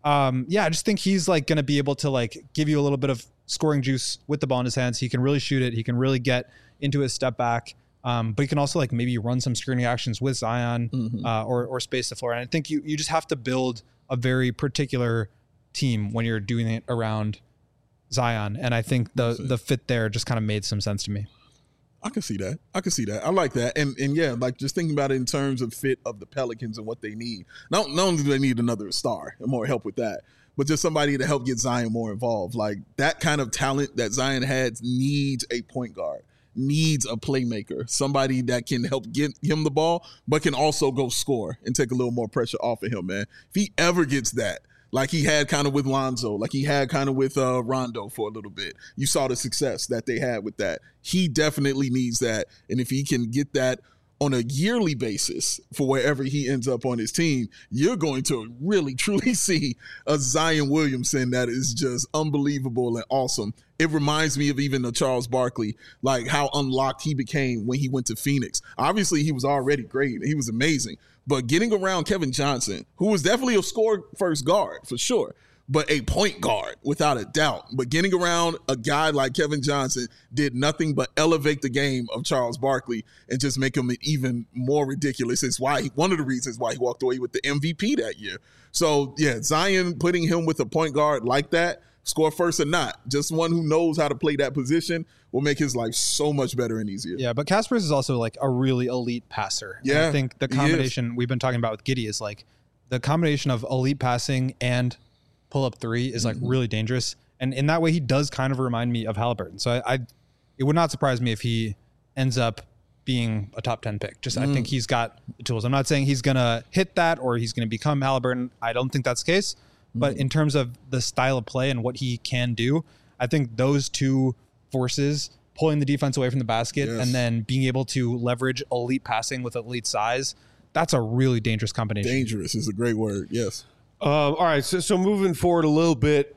I just think he's like going to be able to like give you a little bit of scoring juice with the ball in his hands. He can really shoot it. He can really get into his step back. But he can also like maybe run some screening actions with Zion or space the floor. And I think you just have to build a very particular team when you're doing it around Zion. And I think the fit there just kind of made some sense to me. I can see that. I like that. And yeah, like just thinking about it in terms of fit of the Pelicans and what they need. Not only do they need another star and more help with that, but just somebody to help get Zion more involved. Like that kind of talent that Zion has needs a point guard, needs a playmaker, somebody that can help get him the ball, but can also go score and take a little more pressure off of him, man. If he ever gets that, like he had kind of with Lonzo, like he had kind of with Rondo for a little bit. You saw the success that they had with that. He definitely needs that. And if he can get that on a yearly basis for wherever he ends up on his team, you're going to really, truly see a Zion Williamson that is just unbelievable and awesome. It reminds me of even Charles Barkley, like how unlocked he became when he went to Phoenix. Obviously, he was already great. He was amazing. But getting around Kevin Johnson, who was definitely a score-first guard for sure, but a point guard without a doubt. But getting around a guy like Kevin Johnson did nothing but elevate the game of Charles Barkley and just make him even more ridiculous. It's one of the reasons why he walked away with the MVP that year. So, yeah, Zion putting him with a point guard like that, score first or not, just one who knows how to play that position will make his life so much better and easier. Yeah, but Kaspers is also like a really elite passer. Yeah, and I think the combination we've been talking about with Giddey is like the combination of elite passing and pull-up three is like really dangerous. And in that way, he does kind of remind me of Haliburton. So it would not surprise me if he ends up being a top 10 pick. I think he's got the tools. I'm not saying he's going to hit that or he's going to become Haliburton. I don't think that's the case. But in terms of the style of play and what he can do, I think those two forces, pulling the defense away from the basket and then being able to leverage elite passing with elite size, that's a really dangerous combination. Dangerous is a great word, yes. All right, so moving forward a little bit,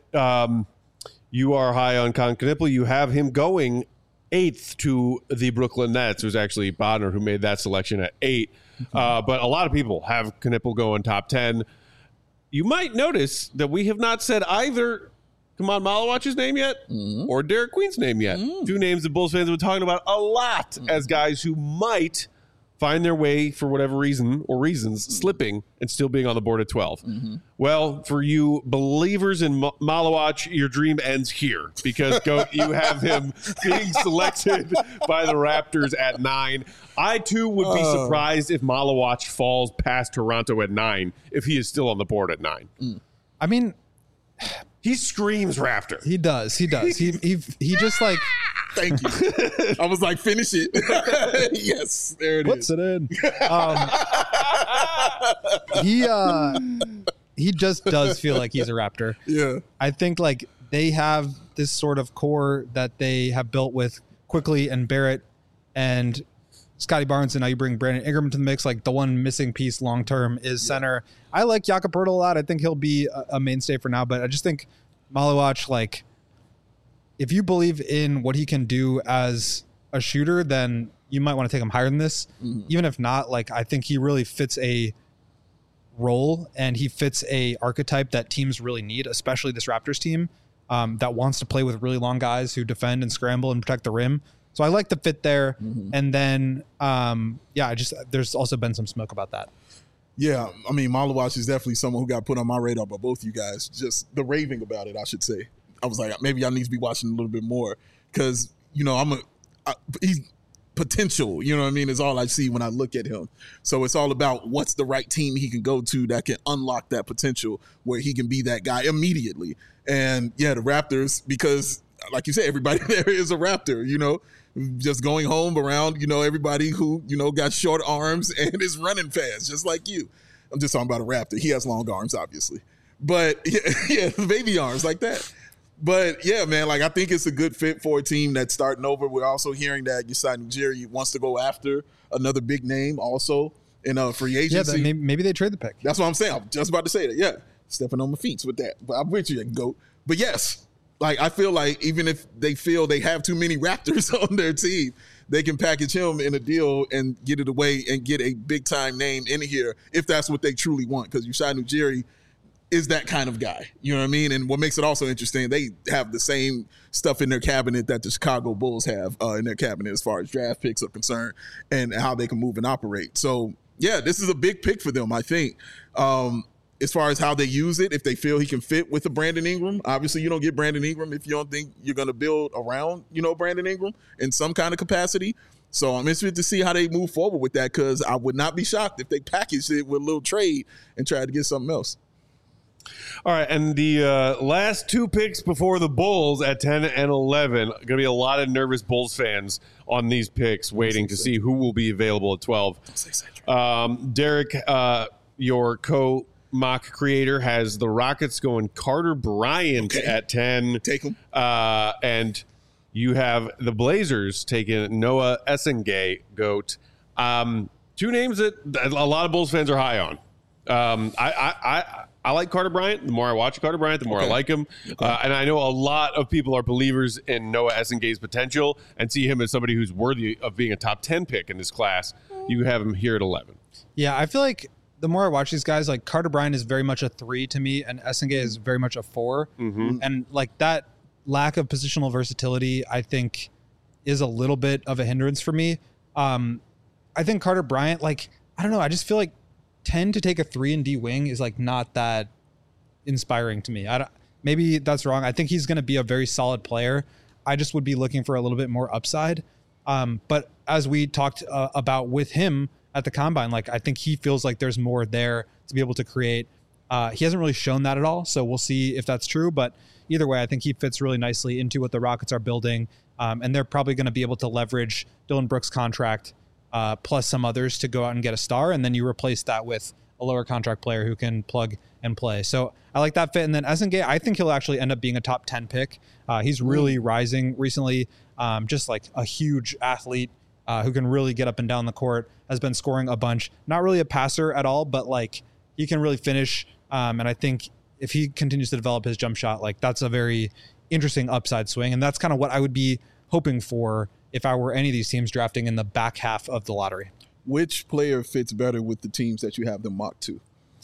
you are high on Con Knipple. You have him going 8th to the Brooklyn Nets. It was actually Bodner who made that selection at 8. But a lot of people have Knipple going top 10. You might notice that we have not said either Kaman Malawach's name yet or Derek Queen's name yet. Two names that Bulls fans have been talking about a lot as guys who might find their way, for whatever reason or reasons, slipping and still being on the board at 12. Well, for you believers in Malawach, your dream ends here because you have him being selected by the Raptors at 9. I, too, would be surprised if Malawach falls past Toronto at 9 if he is still on the board at 9. I mean, he screams Raptor. He does. He just like... Thank you. I was like, finish it. Yes, there it Puts is. it in. He just does feel like he's a Raptor. Yeah. I think like they have this sort of core that they have built with Quickly and Barrett and Scotty Barnes, and now you bring Brandon Ingram to the mix. Like the one missing piece long term is center. I like Jakob Poeltl a lot. I think he'll be a mainstay for now, but I just think Malawach, like, if you believe in what he can do as a shooter, then you might want to take him higher than this. Even if not, like, I think he really fits a role and he fits a archetype that teams really need, especially this Raptors team that wants to play with really long guys who defend and scramble and protect the rim. So I like the fit there. And then, there's also been some smoke about that. Yeah, I mean, Malawach is definitely someone who got put on my radar by both you guys. Just the raving about it, I should say. I was like, maybe I need to be watching a little bit more because, you know, he's potential, you know what I mean, is all I see when I look at him. So it's all about what's the right team he can go to that can unlock that potential where he can be that guy immediately. And yeah, the Raptors, because like you said, everybody there is a Raptor, you know, just going home around, you know, everybody who, you know, got short arms and is running fast, just like you. I'm just talking about a Raptor. He has long arms, obviously. But yeah, baby arms like that. But yeah, man, like I think it's a good fit for a team that's starting over. We're also hearing that Yesai Ujiri wants to go after another big name also in a free agency. Yeah, maybe they trade the pick. That's what I'm saying. I'm just about to say that. Yeah, stepping on my feet with that. But I'm with you, GOAT. But yes, Like, I feel like even if they feel they have too many Raptors on their team, they can package him in a deal and get it away and get a big-time name in here if that's what they truly want. Because Masai Ujiri is that kind of guy. You know what I mean? And what makes it also interesting, they have the same stuff in their cabinet that the Chicago Bulls have in their cabinet as far as draft picks are concerned and how they can move and operate. So, yeah, this is a big pick for them, I think. As far as how they use it, if they feel he can fit with a Brandon Ingram. Obviously, you don't get Brandon Ingram if you don't think you're going to build around, Brandon Ingram in some kind of capacity. So I'm interested to see how they move forward with that, because I would not be shocked if they packaged it with a little trade and tried to get something else. All right, and the last 2 picks before the Bulls at 10 and 11, going to be a lot of nervous Bulls fans on these picks waiting to see who will be available at 12. Derek, your co-mock creator, has the Rockets going Carter Bryant at 10. Take him. And you have the Blazers taking Noah Essengay, GOAT. 2 names that a lot of Bulls fans are high on. I like Carter Bryant. The more I watch Carter Bryant, the more I like him. And I know a lot of people are believers in Noah Essengay's potential and see him as somebody who's worthy of being a top 10 pick in this class. You have him here at 11. Yeah, I feel like the more I watch these guys, like Carter Bryant is very much a 3 to me, and Essengay is very much a 4. Mm-hmm. And like that lack of positional versatility, I think, is a little bit of a hindrance for me. I think Carter Bryant, like, I don't know, I just feel like 10 to take a 3 and D wing is like not that inspiring to me. Maybe that's wrong. I think he's going to be a very solid player. I just would be looking for a little bit more upside. But as we talked about with him at the combine, like I think he feels like there's more there to be able to create. He hasn't really shown that at all, so we'll see if that's true. But either way, I think he fits really nicely into what the Rockets are building, and they're probably going to be able to leverage Dillon Brooks' contract plus some others to go out and get a star, and then you replace that with a lower contract player who can plug and play. So I like that fit. And then Essengay, I think he'll actually end up being a top 10 pick. He's really rising recently, just like a huge athlete who can really get up and down the court, has been scoring a bunch. Not really a passer at all, but like he can really finish. And I think if he continues to develop his jump shot, like that's a very interesting upside swing. And that's kind of what I would be hoping for if I were any of these teams drafting in the back half of the lottery. Which player fits better with the teams that you have them mocked to?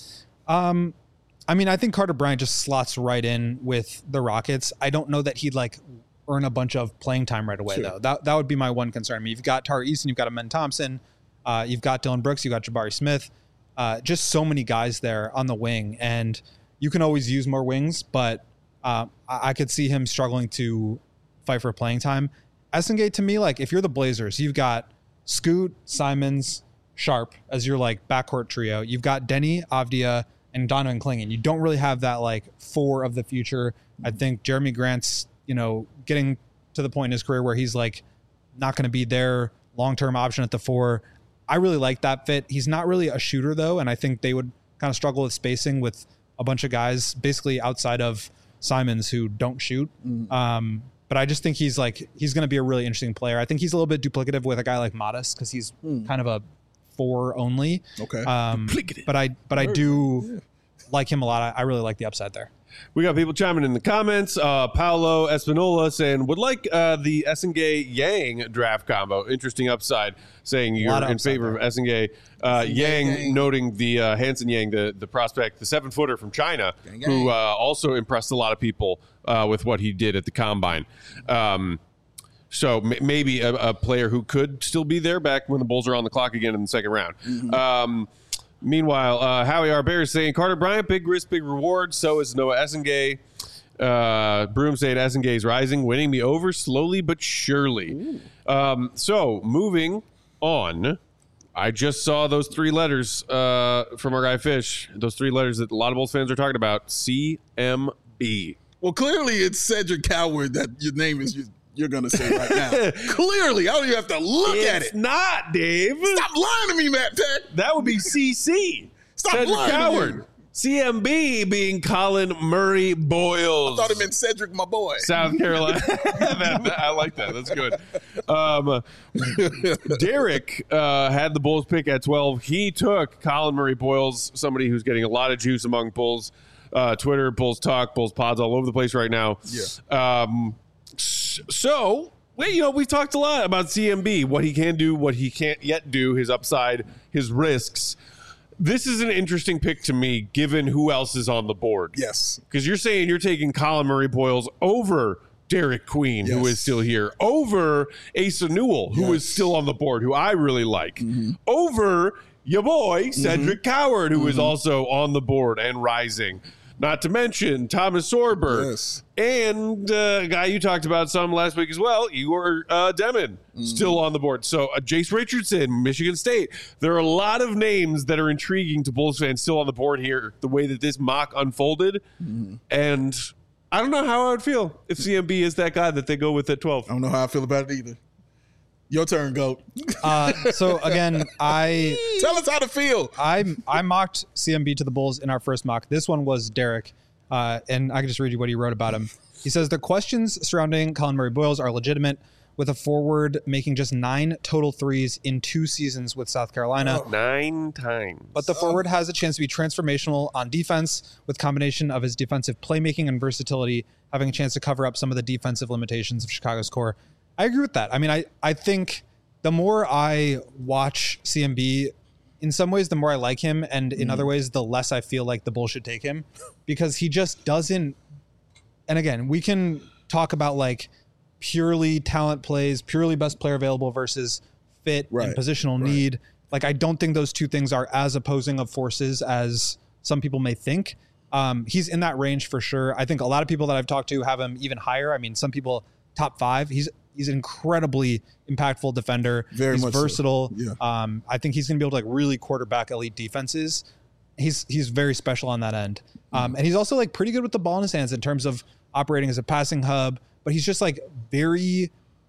I mean, I think Carter Bryant just slots right in with the Rockets. I don't know that he'd like earn a bunch of playing time right away, though. That would be my one concern. I mean, you've got Tari Eason, you've got Amen Thompson, you've got Dillon Brooks, you've got Jabari Smith, just so many guys there on the wing, and you can always use more wings, but I could see him struggling to fight for playing time. Essengay, to me, like if you're the Blazers, you've got Scoot, Simons, Sharp as your like backcourt trio. You've got Denny, Avdia, and Donovan Clingan. You don't really have that like 4 of the future. I think Jeremy Grant's, getting to the point in his career where he's like not going to be their long-term option at the 4. I really like that fit. He's not really a shooter though, and I think they would kind of struggle with spacing with a bunch of guys basically outside of Simons who don't shoot. But I just think he's going to be a really interesting player. I think he's a little bit duplicative with a guy like Modest because he's kind of a 4 only. Okay. But I do like him a lot. I really like the upside there. We got people chiming in the comments. Paolo Espinola saying, would like the Essengay-Yang draft combo. Interesting upside, saying you're in favor of Essengay. Yang noting the Hanson Yang, the prospect, the 7-footer from China, who also impressed a lot of people with what he did at the combine. So maybe a player who could still be there back when the Bulls are on the clock again in the second round. Meanwhile, Howie Arbert is saying Carter Bryant, big risk, big reward. So is Noah Essengay. Broom saying Essengay's rising, winning me over slowly but surely. So moving on, I just saw those 3 letters from our guy Fish. Those 3 letters that a lot of Bulls fans are talking about. CMB. Well, clearly it's Cedric Coward that your name is you're going to say right now. Clearly. I don't even have to look at it. It's not, Dave. Stop lying to me, Matt Tech. That would be CC. Stop Cedric lying Coward. to me. CMB being Colin Murray Boyles. I thought it meant Cedric, my boy. South Carolina. I like that. That's good. Derek had the Bulls pick at 12. He took Colin Murray Boyles, somebody who's getting a lot of juice among Bulls Twitter, Bulls Talk, Bulls Pods, all over the place right now. Yeah. So, we've talked a lot about CMB, what he can do, what he can't yet do, his upside, his risks. This is an interesting pick to me, given who else is on the board. Yes. Because you're saying you're taking Colin Murray-Boyles over Derek Queen, who is still here, over Asa Newell, who is still on the board, who I really like, over your boy, Cedric Coward, who is also on the board and rising. Not to mention Thomas Sorber and a guy you talked about some last week as well, Igor Demon, still on the board. So Jace Richardson, Michigan State. There are a lot of names that are intriguing to Bulls fans still on the board here, the way that this mock unfolded. And I don't know how I would feel if CMB is that guy that they go with at 12. I don't know how I feel about it either. Your turn, GOAT. So again, tell us how to feel. I mocked CMB to the Bulls in our first mock. This one was Derek, and I can just read you what he wrote about him. He says the questions surrounding Colin Murray-Boyles are legitimate, with a forward making just 9 total threes in 2 seasons with South Carolina. 9 times. But the forward has a chance to be transformational on defense, with combination of his defensive playmaking and versatility having a chance to cover up some of the defensive limitations of Chicago's core. I agree with that. I mean, I think the more I watch CMB, in some ways, the more I like him. And in other ways, the less I feel like the Bulls should take him, because he just doesn't. And again, we can talk about like purely talent plays, purely best player available versus fit and positional need. Like, I don't think those two things are as opposing of forces as some people may think. He's in that range for sure. I think a lot of people that I've talked to have him even higher. I mean, some people top 5. He's an incredibly impactful defender. He's versatile. So. Yeah. I think he's going to be able to like really quarterback elite defenses. He's very special on that end. And he's also like pretty good with the ball in his hands in terms of operating as a passing hub, but he's just like very,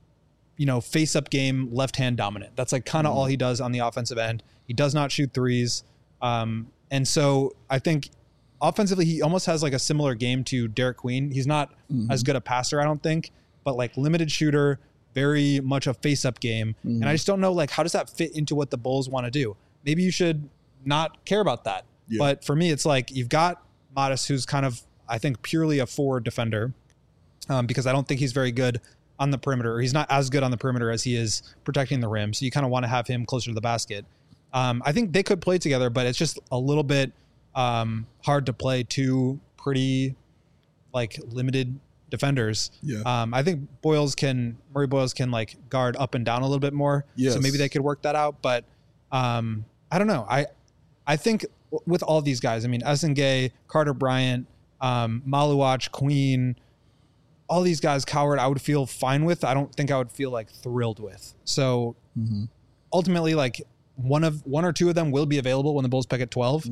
face up game, left hand dominant. That's like kind of all he does on the offensive end. He does not shoot threes. And so I think offensively, he almost has like a similar game to Derek Queen. He's not as good a passer, I don't think, but like limited shooter, very much a face-up game. And I just don't know, like, how does that fit into what the Bulls want to do? Maybe you should not care about that. Yeah. But for me, it's like you've got Modest, who's kind of, I think, purely a forward defender, because I don't think he's very good on the perimeter. He's not as good on the perimeter as he is protecting the rim. So you kind of want to have him closer to the basket. I think they could play together, but it's just a little bit hard to play two pretty like limited defenders. Yeah. I think Murray-Boyles can like guard up and down a little bit more. Yes. So maybe they could work that out. But I don't know. I think with all these guys, I mean, Essengay, Carter Bryant, Maluach, Queen, all these guys, Coward, I would feel fine with. I don't think I would feel like thrilled with. So ultimately, like one or two of them will be available when the Bulls pick at 12.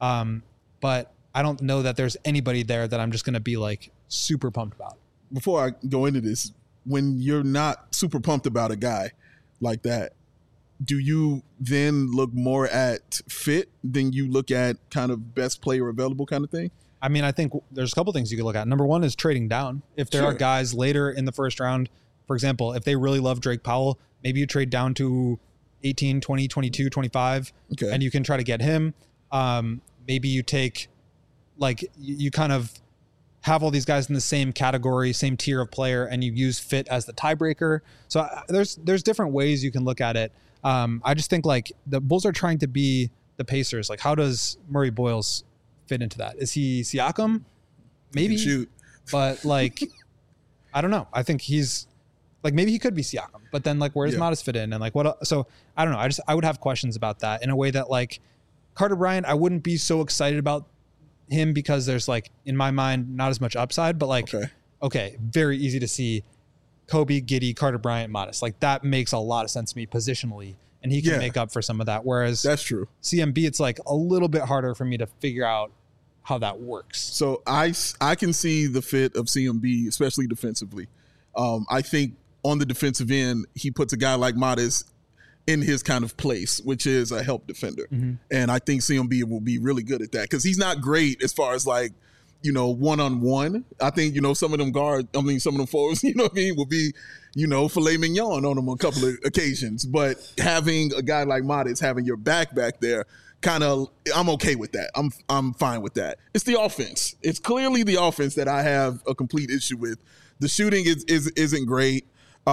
But I don't know that there's anybody there that I'm just going to be like super pumped about. Before I go into this, when you're not super pumped about a guy like that, do you then look more at fit than you look at kind of best player available kind of thing? I mean, I think there's a couple things you could look at. Number one is trading down. If there are guys later in the first round, for example, if they really love Drake Powell, maybe you trade down to 18, 20, 22, 25, and you can try to get him. Maybe you take, like, you kind of have all these guys in the same category, same tier of player, and you use fit as the tiebreaker. So there's different ways you can look at it. I just think like the Bulls are trying to be the Pacers. Like, how does Murray-Boyles fit into that? Is he Siakam? Maybe. Shoot. But like, I don't know. I think he's like, maybe he could be Siakam, but then like, where does Modest fit in? And like, what? So I don't know. I would have questions about that in a way that like Carter Bryant, I wouldn't be so excited about him because there's like, in my mind, not as much upside, but like, okay, very easy to see Kobe, Giddey, Carter Bryant, Modest. Like that makes a lot of sense to me positionally, and he can make up for some of that. Whereas that's true. CMB, it's like a little bit harder for me to figure out how that works. So I can see the fit of CMB, especially defensively. I think on the defensive end, he puts a guy like Modest in his kind of place, which is a help defender. And I think CMB will be really good at that because he's not great as far as like, one-on-one. I think, some of them some of them forwards, will be, filet mignon on them on a couple of occasions. But having a guy like Modest, having your back there, I'm okay with that. I'm fine with that. It's the offense. It's clearly the offense that I have a complete issue with. The shooting isn't great.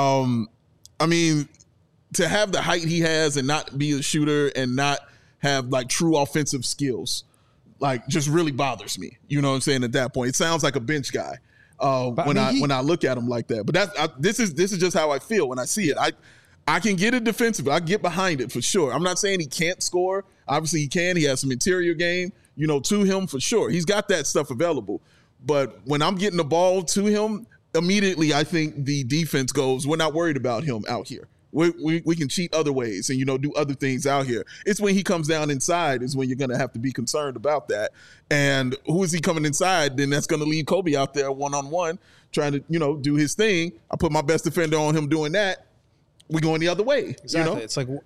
I mean, to have the height he has and not be a shooter and not have like true offensive skills, like just really bothers me. You know what I'm saying? At that point, it sounds like a bench guy when I look at him like that. But this is just how I feel when I see it. I can get it defensively. I get behind it for sure. I'm not saying he can't score. Obviously he can. He has some interior game, to him for sure. He's got that stuff available. But when I'm getting the ball to him, immediately I think the defense goes, we're not worried about him out here. We can cheat other ways and, do other things out here. It's when he comes down inside is when you're going to have to be concerned about that. And who is he coming inside? Then that's going to leave Kobe out there one-on-one trying to, do his thing. I put my best defender on him doing that. We going the other way. Exactly. It's like,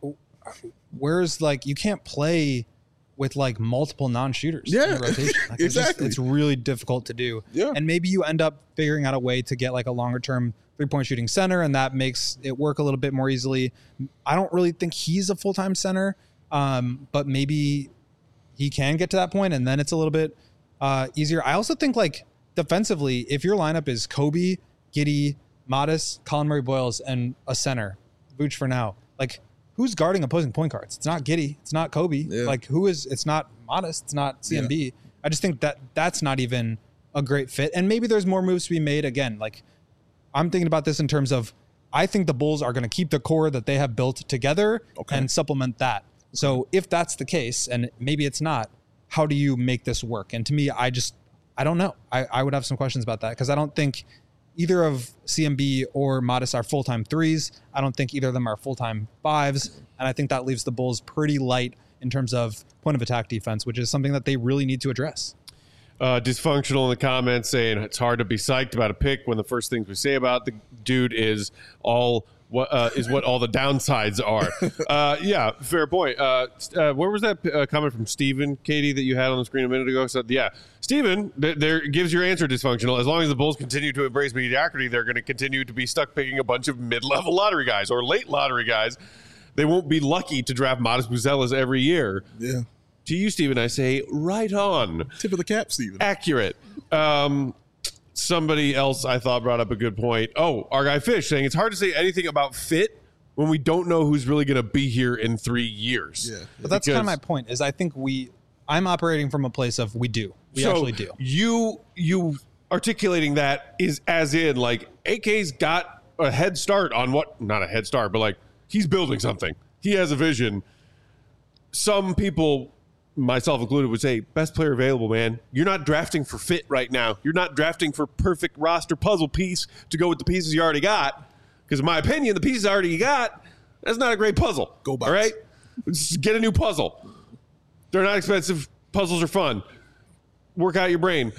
where's you can't play with multiple non-shooters in rotation. Exactly. It's really difficult to do. Yeah. And maybe you end up figuring out a way to get a longer-term three-point shooting center, and that makes it work a little bit more easily. I don't really think he's a full-time center, but maybe he can get to that point, and then it's a little bit easier. I also think defensively, if your lineup is Kobe, Giddey, Modest, Colin Murray-Boyles, and a center, Vooch for now, who's guarding opposing point guards? It's not Giddey. It's not Kobe. Yeah. Who is? It's not Modest. It's not CMB. Yeah. I just think that's not even a great fit. And maybe there's more moves to be made. Again, I'm thinking about this in terms of, I think the Bulls are going to keep the core that they have built together and supplement that. So if that's the case, and maybe it's not, how do you make this work? And to me, I don't know. I would have some questions about that because I don't think either of CMB or Modest are full-time threes. I don't think either of them are full-time fives. And I think that leaves the Bulls pretty light in terms of point of attack defense, which is something that they really need to address. Dysfunctional in the comments saying it's hard to be psyched about a pick when the first things we say about the dude is what all the downsides are. Yeah, fair point. Where was that comment from Steven, Katie, that you had on the screen a minute ago? So, yeah, Steven, there gives your answer dysfunctional. As long as the Bulls continue to embrace mediocrity, they're going to continue to be stuck picking a bunch of mid-level lottery guys or late lottery guys. They won't be lucky to draft Modest Buzelas every year. Yeah. To you, Steven, I say right on. Tip of the cap, Steven. Accurate. Somebody else I thought brought up a good point. Oh, our guy Fish saying it's hard to say anything about fit when we don't know who's really going to be here in 3 years. Yeah. But that's kind of my point is I think I'm operating from a place of we actually do. You articulating that is as in AK's got a head start on not a head start, but he's building something. He has a vision. Some people, myself included, would say best player available, man. You're not drafting for fit right now. You're not drafting for perfect roster puzzle piece to go with the pieces you already got. Because in my opinion, the pieces already you got, that's not a great puzzle. Go Bucks. All right? Just get a new puzzle. They're not expensive. Puzzles are fun. Work out your brain.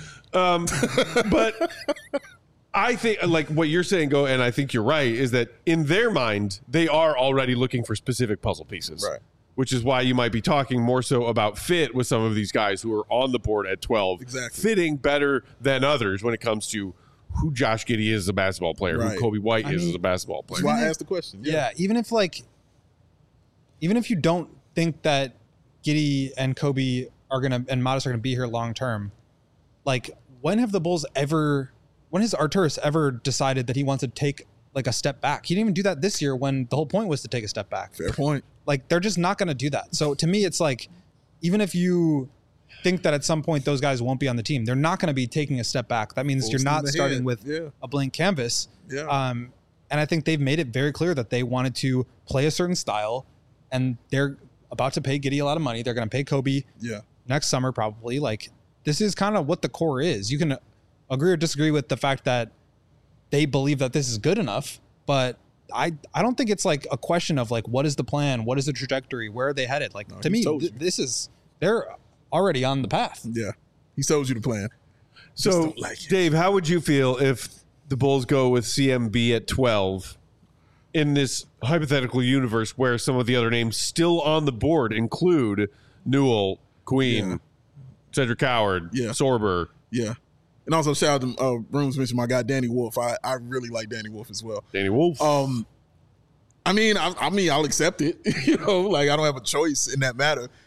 But I think what you're saying, Go, and I think you're right, is that in their mind, they are already looking for specific puzzle pieces. Right. Which is why you might be talking more so about fit with some of these guys who are on the board at 12. Exactly. Fitting better than others when it comes to who Josh Giddey is as a basketball player, who Kobe White is as a basketball player. That's why I asked the question. Yeah, even if you don't think that Giddey and Kobe and Modest are gonna be here long term, when has Arturas ever decided that he wants to take a step back? He didn't even do that this year when the whole point was to take a step back. Fair point. They're just not going to do that. So to me, it's even if you think that at some point those guys won't be on the team, they're not going to be taking a step back. That means you're not starting with a blank canvas. Yeah. And I think they've made it very clear that they wanted to play a certain style, and they're about to pay Giddey a lot of money. They're going to pay Kobe next summer probably. This is kind of what the core is. You can agree or disagree with the fact that they believe that this is good enough, but I don't think it's a question of what is the plan? What is the trajectory? Where are they headed? To me, they're already on the path. Yeah. He told you the plan. So Dave, how would you feel if the Bulls go with CMB at 12 in this hypothetical universe where some of the other names still on the board include Newell, Queen, Cedric Howard, Sorber. Yeah. And also shout out to Rooms mentioned my guy Danny Wolf. I really like Danny Wolf as well. Danny Wolf. I'll accept it. I don't have a choice in that matter.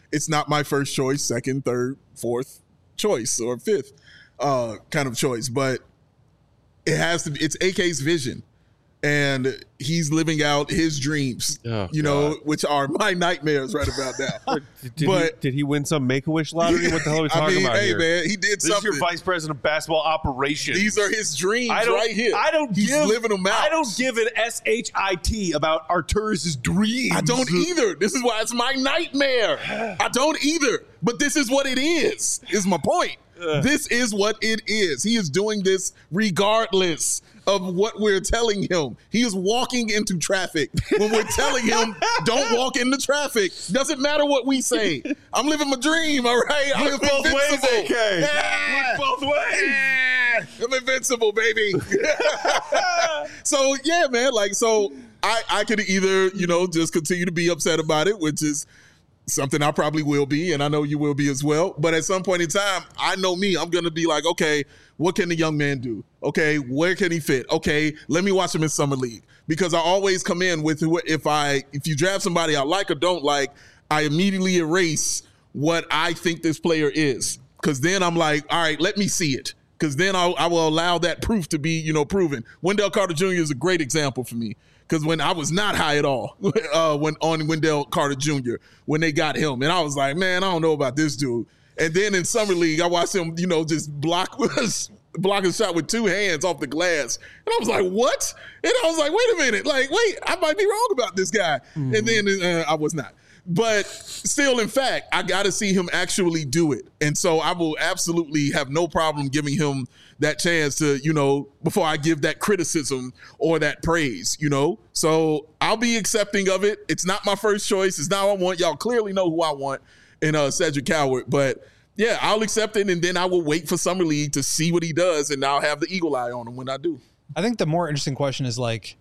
it's not my first choice, second, third, fourth choice, or fifth kind of choice. But it has to be. It's AK's vision. And he's living out his dreams, which are my nightmares right about now. Did he win some Make-A-Wish lottery? What the hell are we talking about here? Man, he did something. This is your vice president of basketball operations. These are his dreams right here. He's living them out. I don't give an SHIT about Arturus' dreams. I don't either. This is why it's my nightmare. I don't either. But this is what it is my point. This is what it is. He is doing this regardless of what we're telling him. He is walking into traffic when we're telling him, don't walk into traffic. Doesn't matter what we say. I'm living my dream, all right? I'm both ways, AK. Yeah. Look both ways. Yeah. I'm invincible, baby. So, yeah, man. So I could either, just continue to be upset about it, which is something I probably will be, and I know you will be as well. But at some point in time, I know me. I'm going to be like, okay, what can the young man do? Okay, where can he fit? Okay, let me watch him in Summer League. Because I always come in with, if you draft somebody I like or don't like, I immediately erase what I think this player is. Because then I'm like, all right, let me see it. Because then I will allow that proof to be, proven. Wendell Carter Jr. is a great example for me. Because when I was not high at all on Wendell Carter Jr., when they got him, and I was like, man, I don't know about this dude. And then in Summer League, I watched him, just block a shot with two hands off the glass. And I was like, what? And I was like, wait a minute. Wait, I might be wrong about this guy. Mm-hmm. And then I was not. But still, in fact, I got to see him actually do it. And so I will absolutely have no problem giving him that chance to, before I give that criticism or that praise, So I'll be accepting of it. It's not my first choice. It's not what I want. Y'all clearly know who I want in Cedric Coward. But, yeah, I'll accept it, and then I will wait for Summer League to see what he does, and I'll have the eagle eye on him when I do. I think the more interesting question is,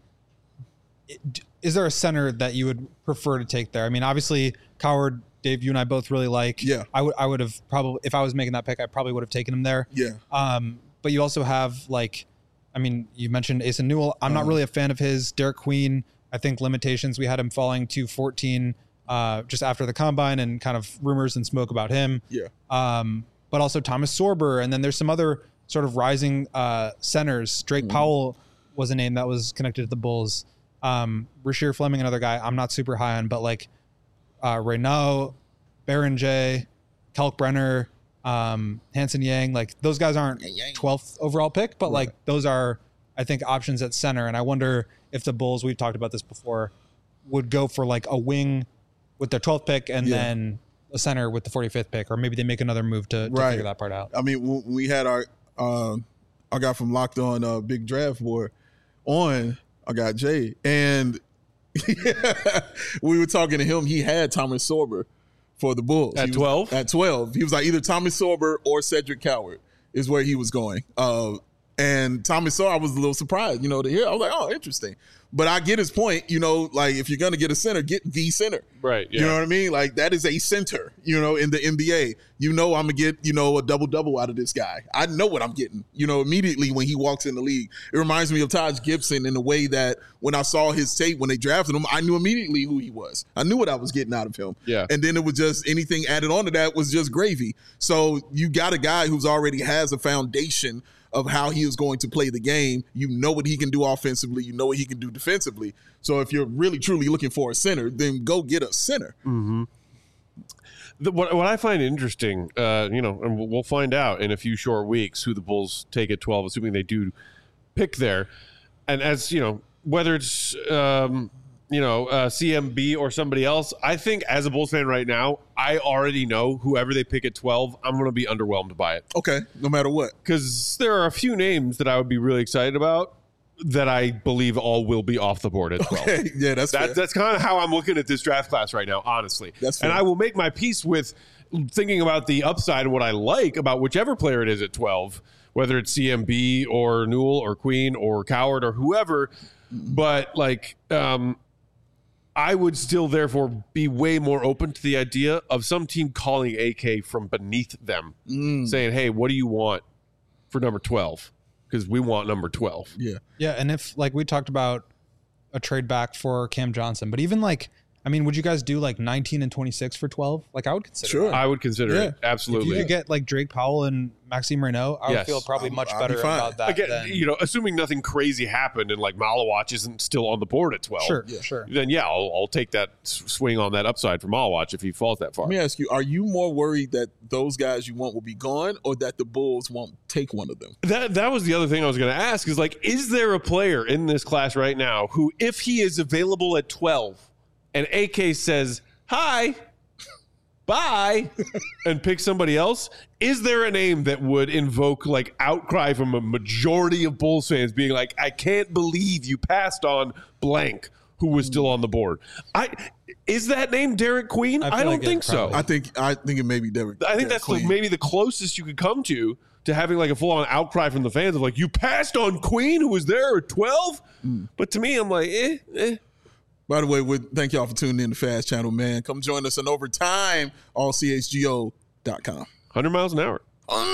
is there a center that you would prefer to take there? I mean, obviously, Coward, Dave, you and I both really like. Yeah. I would have probably, if I was making that pick, I probably would have taken him there. Yeah. But you also have you mentioned Asa Newell. I'm not really a fan of his. Derek Queen, I think limitations. We had him falling to 14 just after the combine, and kind of rumors and smoke about him. Yeah. But also Thomas Sorber, and then there's some other sort of rising centers. Drake Powell was a name that was connected to the Bulls. Rasheer Fleming, another guy I'm not super high on, but Renaud, Baron J, Kalkbrenner, Hanson Yang, those guys aren't 12th overall pick, but right. Those are, I think, options at center. And I wonder if the Bulls, we've talked about this before, would go for a wing with their 12th pick and then a center with the 45th pick, or maybe they make another move to figure that part out. I mean, when we had our guy from Locked On Big Draft Board on, I got Jay, and we were talking to him. He had Thomas Sorber for the Bulls. At 12? At 12. He was like either Thomas Sorber or Cedric Coward is where he was going. And Thomas Sorber, I was a little surprised, to hear. I was like, oh, interesting. But I get his point, if you're going to get a center, get the center. Right. Yeah. You know what I mean? That is a center, in the NBA. I'm going to get, a double-double out of this guy. I know what I'm getting, immediately when he walks in the league. It reminds me of Taj Gibson in the way that when I saw his tape, when they drafted him, I knew immediately who he was. I knew what I was getting out of him. Yeah. And then it was just anything added on to that was just gravy. So you got a guy who's already has a foundation of how he is going to play the game. You know what he can do offensively. You know what he can do defensively. So if you're really, truly looking for a center, then go get a center. Mm-hmm. What I find interesting, and we'll find out in a few short weeks who the Bulls take at 12, assuming they do pick there. And as, whether it's, CMB or somebody else, I think as a Bulls fan right now, I already know whoever they pick at 12, I'm going to be underwhelmed by it. Okay, no matter what. Because there are a few names that I would be really excited about that I believe all will be off the board at 12. Okay, yeah, that's kind of how I'm looking at this draft class right now, honestly. That's fair. And I will make my peace with thinking about the upside and what I like about whichever player it is at 12, whether it's CMB or Newell or Queen or Coward or whoever. But I would still therefore be way more open to the idea of some team calling AK from beneath them, saying, hey, what do you want for number 12? Because we want number 12. Yeah. Yeah, and if we talked about a trade back for Cam Johnson, but even I mean, would you guys do like 19 and 26 for 12? Like I would consider. Sure. that. I would consider it. Absolutely. If you could get like Drake Powell and Maxime Renaud, I would feel probably much better about that. Again, you know, assuming nothing crazy happened and like Malawatch isn't still on the board at 12. Sure. Then I'll take that swing on that upside for Malawatch if he falls that far. Let me ask you: are you more worried that those guys you want will be gone, or that the Bulls won't take one of them? That was the other thing I was going to ask is like, is there a player in this class right now who, if he is available at 12 and AK says, hi, bye, and pick somebody else, is there a name that would invoke like outcry from a majority of Bulls fans being like, I can't believe you passed on blank who was still on the board? Is that name Derek Queen? I don't think so. I think it may be Derek. I think that's maybe the closest you could come to having like a full-on outcry from the fans of like, you passed on Queen who was there at 12? But to me, I'm like, By the way, thank y'all for tuning in to Fast Channel, man. Come join us on Overtime, allchgo.com. 100 miles an hour.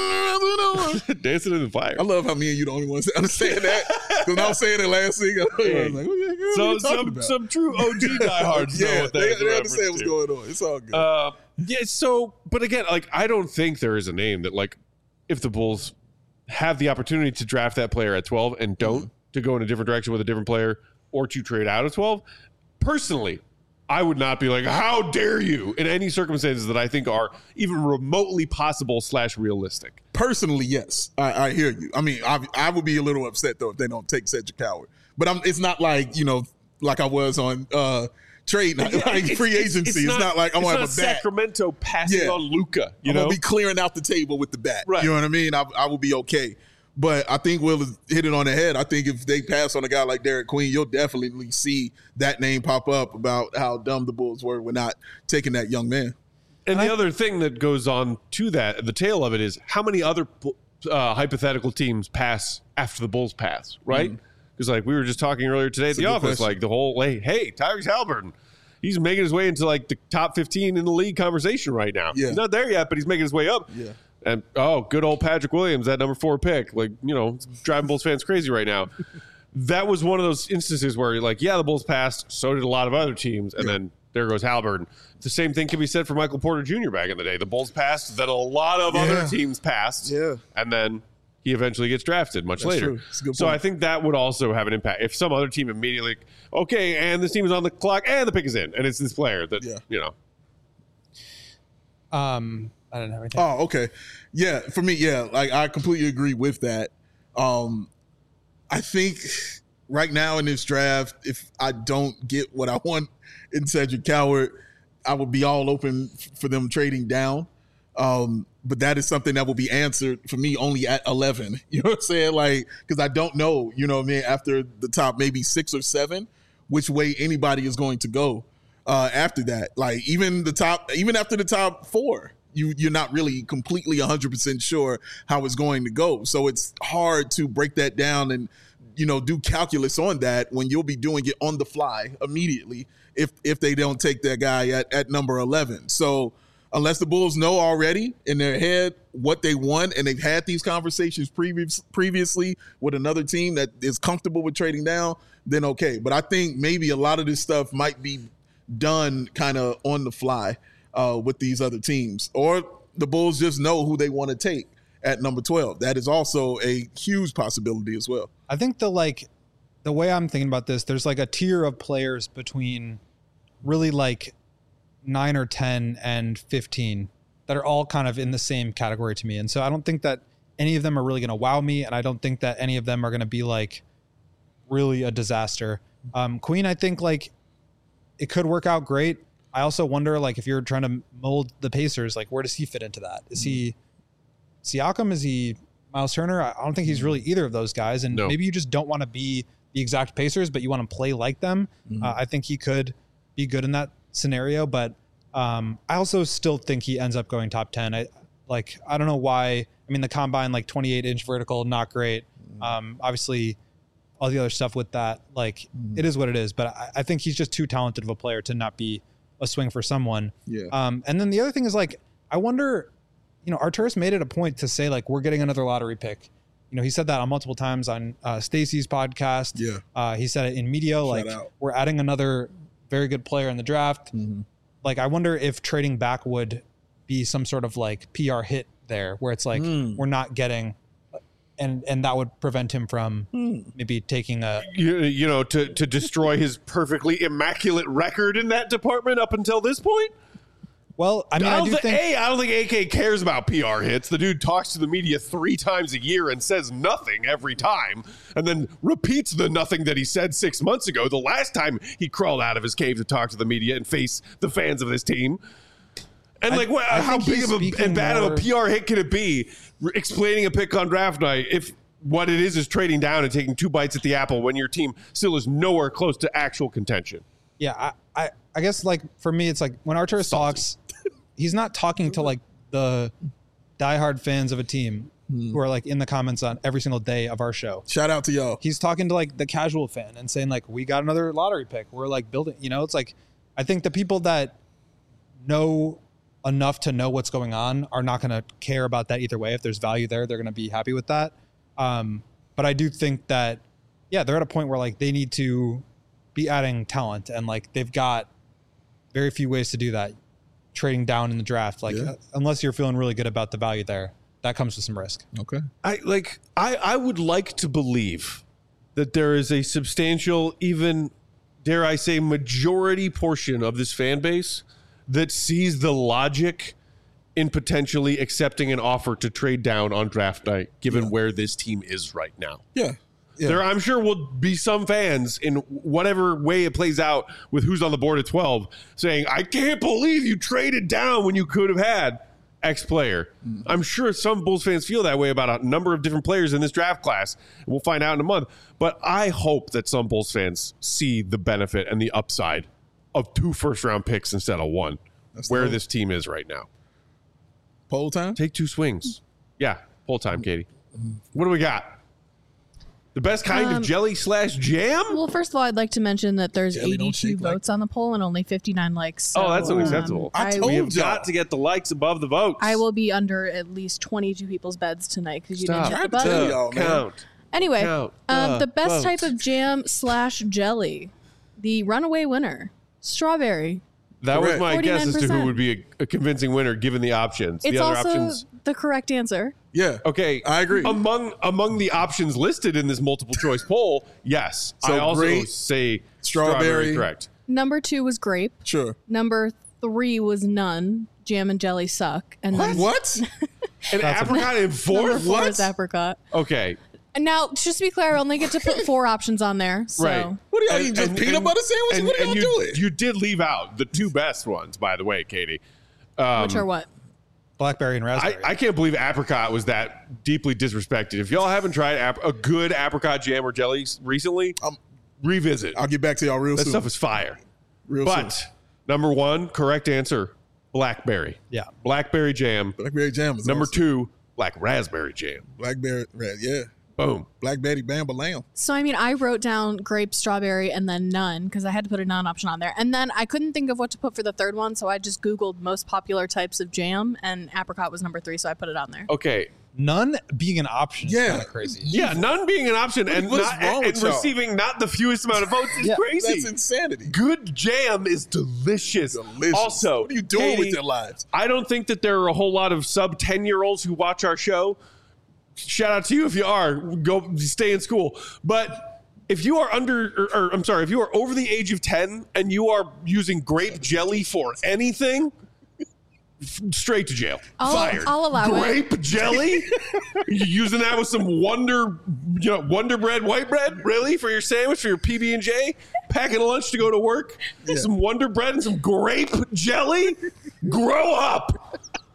Dancing in the fire. I love how me and you the only ones that understand that. Because when I was saying it last week, I was like, what are you talking about? Some true OG diehards know what that is. They understand what's going on. It's all good. But again, like, I don't think there is a name that, like, if the Bulls have the opportunity to draft that player at 12 and don't, to go in a different direction with a different player or to trade out at 12, personally, I would not be like, how dare you, in any circumstances that I think are even remotely possible / realistic. Personally, yes. I hear you. I mean, I would be a little upset, though, if they don't take Cedric Howard. But it's not like, like I was on trade, like free agency. It's not like I'm going to have a bat. Sacramento passing on Luka. I'm going to be clearing out the table with the bat. Right. You know what I mean? I will be okay. But I think Will has hit it on the head. I think if they pass on a guy like Derek Queen, you'll definitely see that name pop up about how dumb the Bulls were not taking that young man. And the other thing that goes on to that, the tail of it, is how many other hypothetical teams pass after the Bulls pass, right? Because like we were just talking earlier today at the office, question. like the whole, hey, Tyrese Haliburton, he's making his way into like the top 15 in the league conversation right now. Yeah. He's not there yet, but he's making his way up. Yeah. And, good old Patrick Williams, that number 4 pick, like, it's driving Bulls fans crazy right now. That was one of those instances where, like, the Bulls passed, so did a lot of other teams, and then there goes Haliburton. The same thing can be said for Michael Porter Jr. back in the day. The Bulls passed, then a lot of other teams passed, and then he eventually gets drafted much later. True. That's a good so point. I think that would also have an impact. If some other team immediately, okay, and this team is on the clock, and the pick is in, and it's this player that, I don't have anything. Oh, okay. Yeah, for me, like I completely agree with that. I think right now in this draft, if I don't get what I want in Cedric Howard, I would be all open for them trading down. But that is something that will be answered for me only at 11. You know what I'm saying? Like, because I don't know, after the top maybe 6 or 7, which way anybody is going to go after that. Like even after the top 4. You're not really completely 100% sure how it's going to go. So it's hard to break that down and, do calculus on that when you'll be doing it on the fly immediately if they don't take that guy at number 11. So unless the Bulls know already in their head what they want and they've had these conversations previously with another team that is comfortable with trading down, then okay. But I think maybe a lot of this stuff might be done kind of on the fly. With these other teams, or the Bulls just know who they want to take at number 12. That is also a huge possibility as well. I think the way I'm thinking about this, there's like a tier of players between really like 9 or 10 and 15 that are all kind of in the same category to me. And so I don't think that any of them are really going to wow me. And I don't think that any of them are going to be like really a disaster. Queen, I think like it could work out great. I also wonder, like, if you're trying to mold the Pacers, like, where does he fit into that? Is he Siakam? Is he Miles Turner? I don't think he's really either of those guys. And maybe you just don't want to be the exact Pacers, but you want to play like them. I think he could be good in that scenario. But I also still think he ends up going top 10. I don't know why. I mean, the combine, like 28-inch vertical, not great. Obviously, all the other stuff with that, like, it is what it is. But I think he's just too talented of a player to not be a swing for someone. Yeah. And then the other thing is, like, I wonder, Arturas made it a point to say, like, we're getting another lottery pick. He said that on multiple times on Stacey's podcast. Yeah. He said it in media, like, we're adding another very good player in the draft. Like, I wonder if trading back would be some sort of like PR hit there, where it's like we're not getting, and that would prevent him from maybe taking a to destroy his perfectly immaculate record in that department up until this point. Well, I mean, I don't think AK cares about PR hits. The dude talks to the media 3 times a year and says nothing every time, and then repeats the nothing that he said 6 months ago, the last time he crawled out of his cave to talk to the media and face the fans of this team. And how big of and bad of a PR hit can it be explaining a pick on draft night if what it is trading down and taking 2 bites at the apple when your team still is nowhere close to actual contention? Yeah, I guess, like, for me, it's like when Arturas talks, he's not talking to like the diehard fans of a team who are like in the comments on every single day of our show. Shout out to y'all. He's talking to like the casual fan and saying like, we got another lottery pick. We're like building, it's like, I think the people that know enough to know what's going on are not going to care about that either way. If there's value there, they're going to be happy with that. But I do think that, they're at a point where like they need to be adding talent, and like they've got very few ways to do that. Trading down in the draft, like unless you're feeling really good about the value there, that comes with some risk. Okay. I would like to believe that there is a substantial, even dare I say, majority portion of this fan base that sees the logic in potentially accepting an offer to trade down on draft night, given where this team is right now. Yeah. There, I'm sure, will be some fans in whatever way it plays out with who's on the board at 12 saying, I can't believe you traded down when you could have had X player. I'm sure some Bulls fans feel that way about a number of different players in this draft class. We'll find out in a month. But I hope that some Bulls fans see the benefit and the upside of 2 first-round picks instead of 1, where this team is right now. Poll time? Take 2 swings. Yeah, poll time, Katie. What do we got? The best kind of jelly/jam? Well, first of all, I'd like to mention that there's Jelly don't 82 shake like- votes on the poll and only 59 likes. So, That's unacceptable. I I, told We have y'all. got to get the likes above the votes. I will be under at least 22 people's beds tonight because you Stop. didn't hit the Tried to tell button. y'all, man. Count. Anyway, Count the best votes. type of jam/jelly, the runaway winner, strawberry. That was Correct. my guess as to who 49%. would be a convincing winner given the options. It's the other also options. the correct answer. Yeah. Okay, I agree. Among the options listed in this multiple choice poll, yes, So I also grape, say strawberry. correct. Number 2 was grape. Sure. Number 3 was none. Jam and jelly suck. And then What? And apricot in number 4th. 4 What? is apricot. Okay, And now, just to be clear, I only get to put 4 options on there. So. right. What are y'all eating? Just peanut butter sandwiches? What are y'all doing? You did leave out the 2 best ones, by the way, Katie. Which are what? Blackberry and raspberry. I can't believe apricot was that deeply disrespected. If y'all haven't tried a good apricot jam or jelly recently, revisit. I'll get back to y'all real That soon. stuff is fire. Real But soon. number 1, correct answer, blackberry. Yeah. Blackberry jam. Blackberry jam is Number awesome. 2, black raspberry jam. Blackberry red. Yeah. Boom. Blackberry Bamba Lamb. So, I mean, I wrote down grape, strawberry, and then none because I had to put a none option on there. And then I couldn't think of what to put for the third one, so I just Googled most popular types of jam, and apricot was number 3, so I put it on there. Okay. None being an option is Yeah. kind of crazy. Yeah, none being an option and What's not wrong and with y'all? receiving not the fewest amount of votes is Yeah. crazy. That's insanity. Good jam is delicious. Delicious. Also, what are you doing Katie, with your lives? I don't think that there are a whole lot of sub 10-year-olds who watch our show. Shout out to you if you are. Go stay in school. But if you are if you are over the age of 10 and you are using grape jelly for anything, straight to jail. Fired. I'll allow it. Grape jelly? You using that with some Wonder Bread white bread? Really? For your sandwich, for your PB&J? Packing a lunch to go to work? Some Wonder Bread and some grape jelly? Grow up.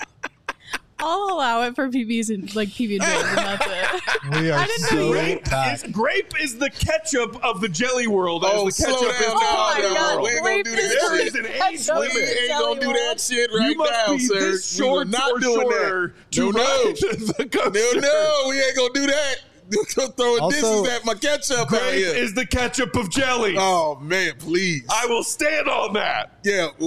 I'll allow it for PBs and like PB and J's, and that's it. We are I didn't know so you- back. Grape is the ketchup of the jelly world. Oh, as the slow ketchup down is now. the Oh my jelly God, world. We ain't gonna grape do is that There shit. is an ketchup age of We limit. the ain't gonna do jelly that world. shit right You must now, be sir. this short We are not or doing shorter that. to No, ride the coaster. No, we ain't gonna do that. Throwing Also, disses at my ketchup out Grape here. is the ketchup of jelly. Oh man, please. I will stand on that. Yeah, well,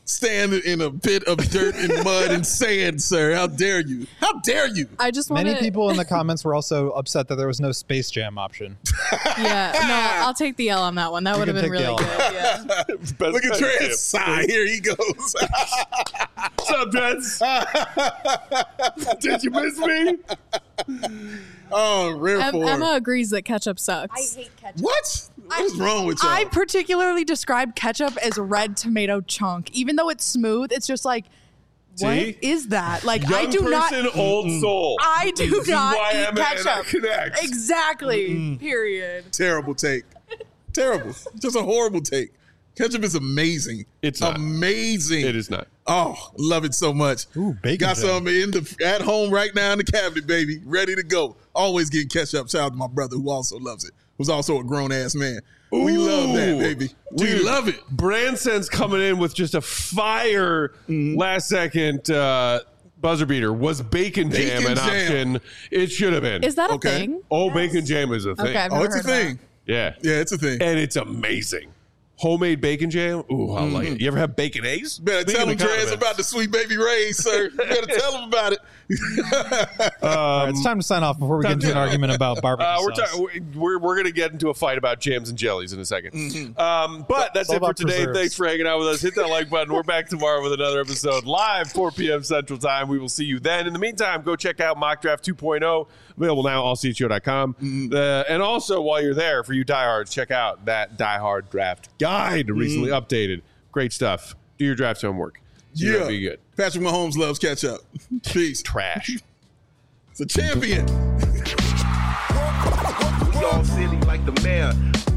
stand in a pit of dirt and mud and sand, sir. How dare you? How dare you? I just want Many people in the comments were also upset that there was no Space Jam option. Yeah, no, I'll take the L on that one. That would have been really good. Yeah. Look at Trent's side. Here he goes. What's up, Trent? Did you miss me? Oh, rare form. Emma agrees that ketchup sucks. I hate ketchup. What? What is wrong with y'all? I particularly describe ketchup as red tomato chunk. Even though it's smooth, it's just like, what is that? Like, Young I do not. old soul. I do This is not why eat Emma and I ketchup. connect. Exactly. Period. Terrible take. Terrible. Just a horrible take. Ketchup is amazing. It's not. Amazing. It is not. Oh, love it so much. Ooh, bacon Got jam. some at home right now in the cabinet, baby. Ready to go. Always getting ketchup. Shout out to my brother who also loves it. Who's also a grown-ass man. We love that, baby. We love it. Brandsen's coming in with just a fire last-second buzzer beater. Was bacon jam an option? It should have been. Is that a thing? Oh, bacon jam is a thing. Okay, I've Oh, never it's a heard of that. thing. Yeah. Yeah, it's a thing. And it's amazing. Homemade bacon jam? Ooh, I like it. You ever have bacon eggs? Better tell him, Trez, about the Sweet Baby Ray's, sir. You better tell him about it. All right, it's time to sign off before we get into an argument about barbecue sauce. We're going to get into a fight about jams and jellies in a second. But that's all it for about today. preserves. Thanks for hanging out with us. Hit that like button. We're back tomorrow with another episode live 4 p.m. Central Time. We will see you then. In the meantime, go check out Mock Draft 2.0. Available now, allcho.com. And also, while you're there, for you diehards, check out that Die Hard Draft Guide, recently updated. Great stuff. Do your draft homework. Yeah. Be good. Patrick Mahomes loves ketchup. Peace. Trash. It's a champion. We all silly like the mayor.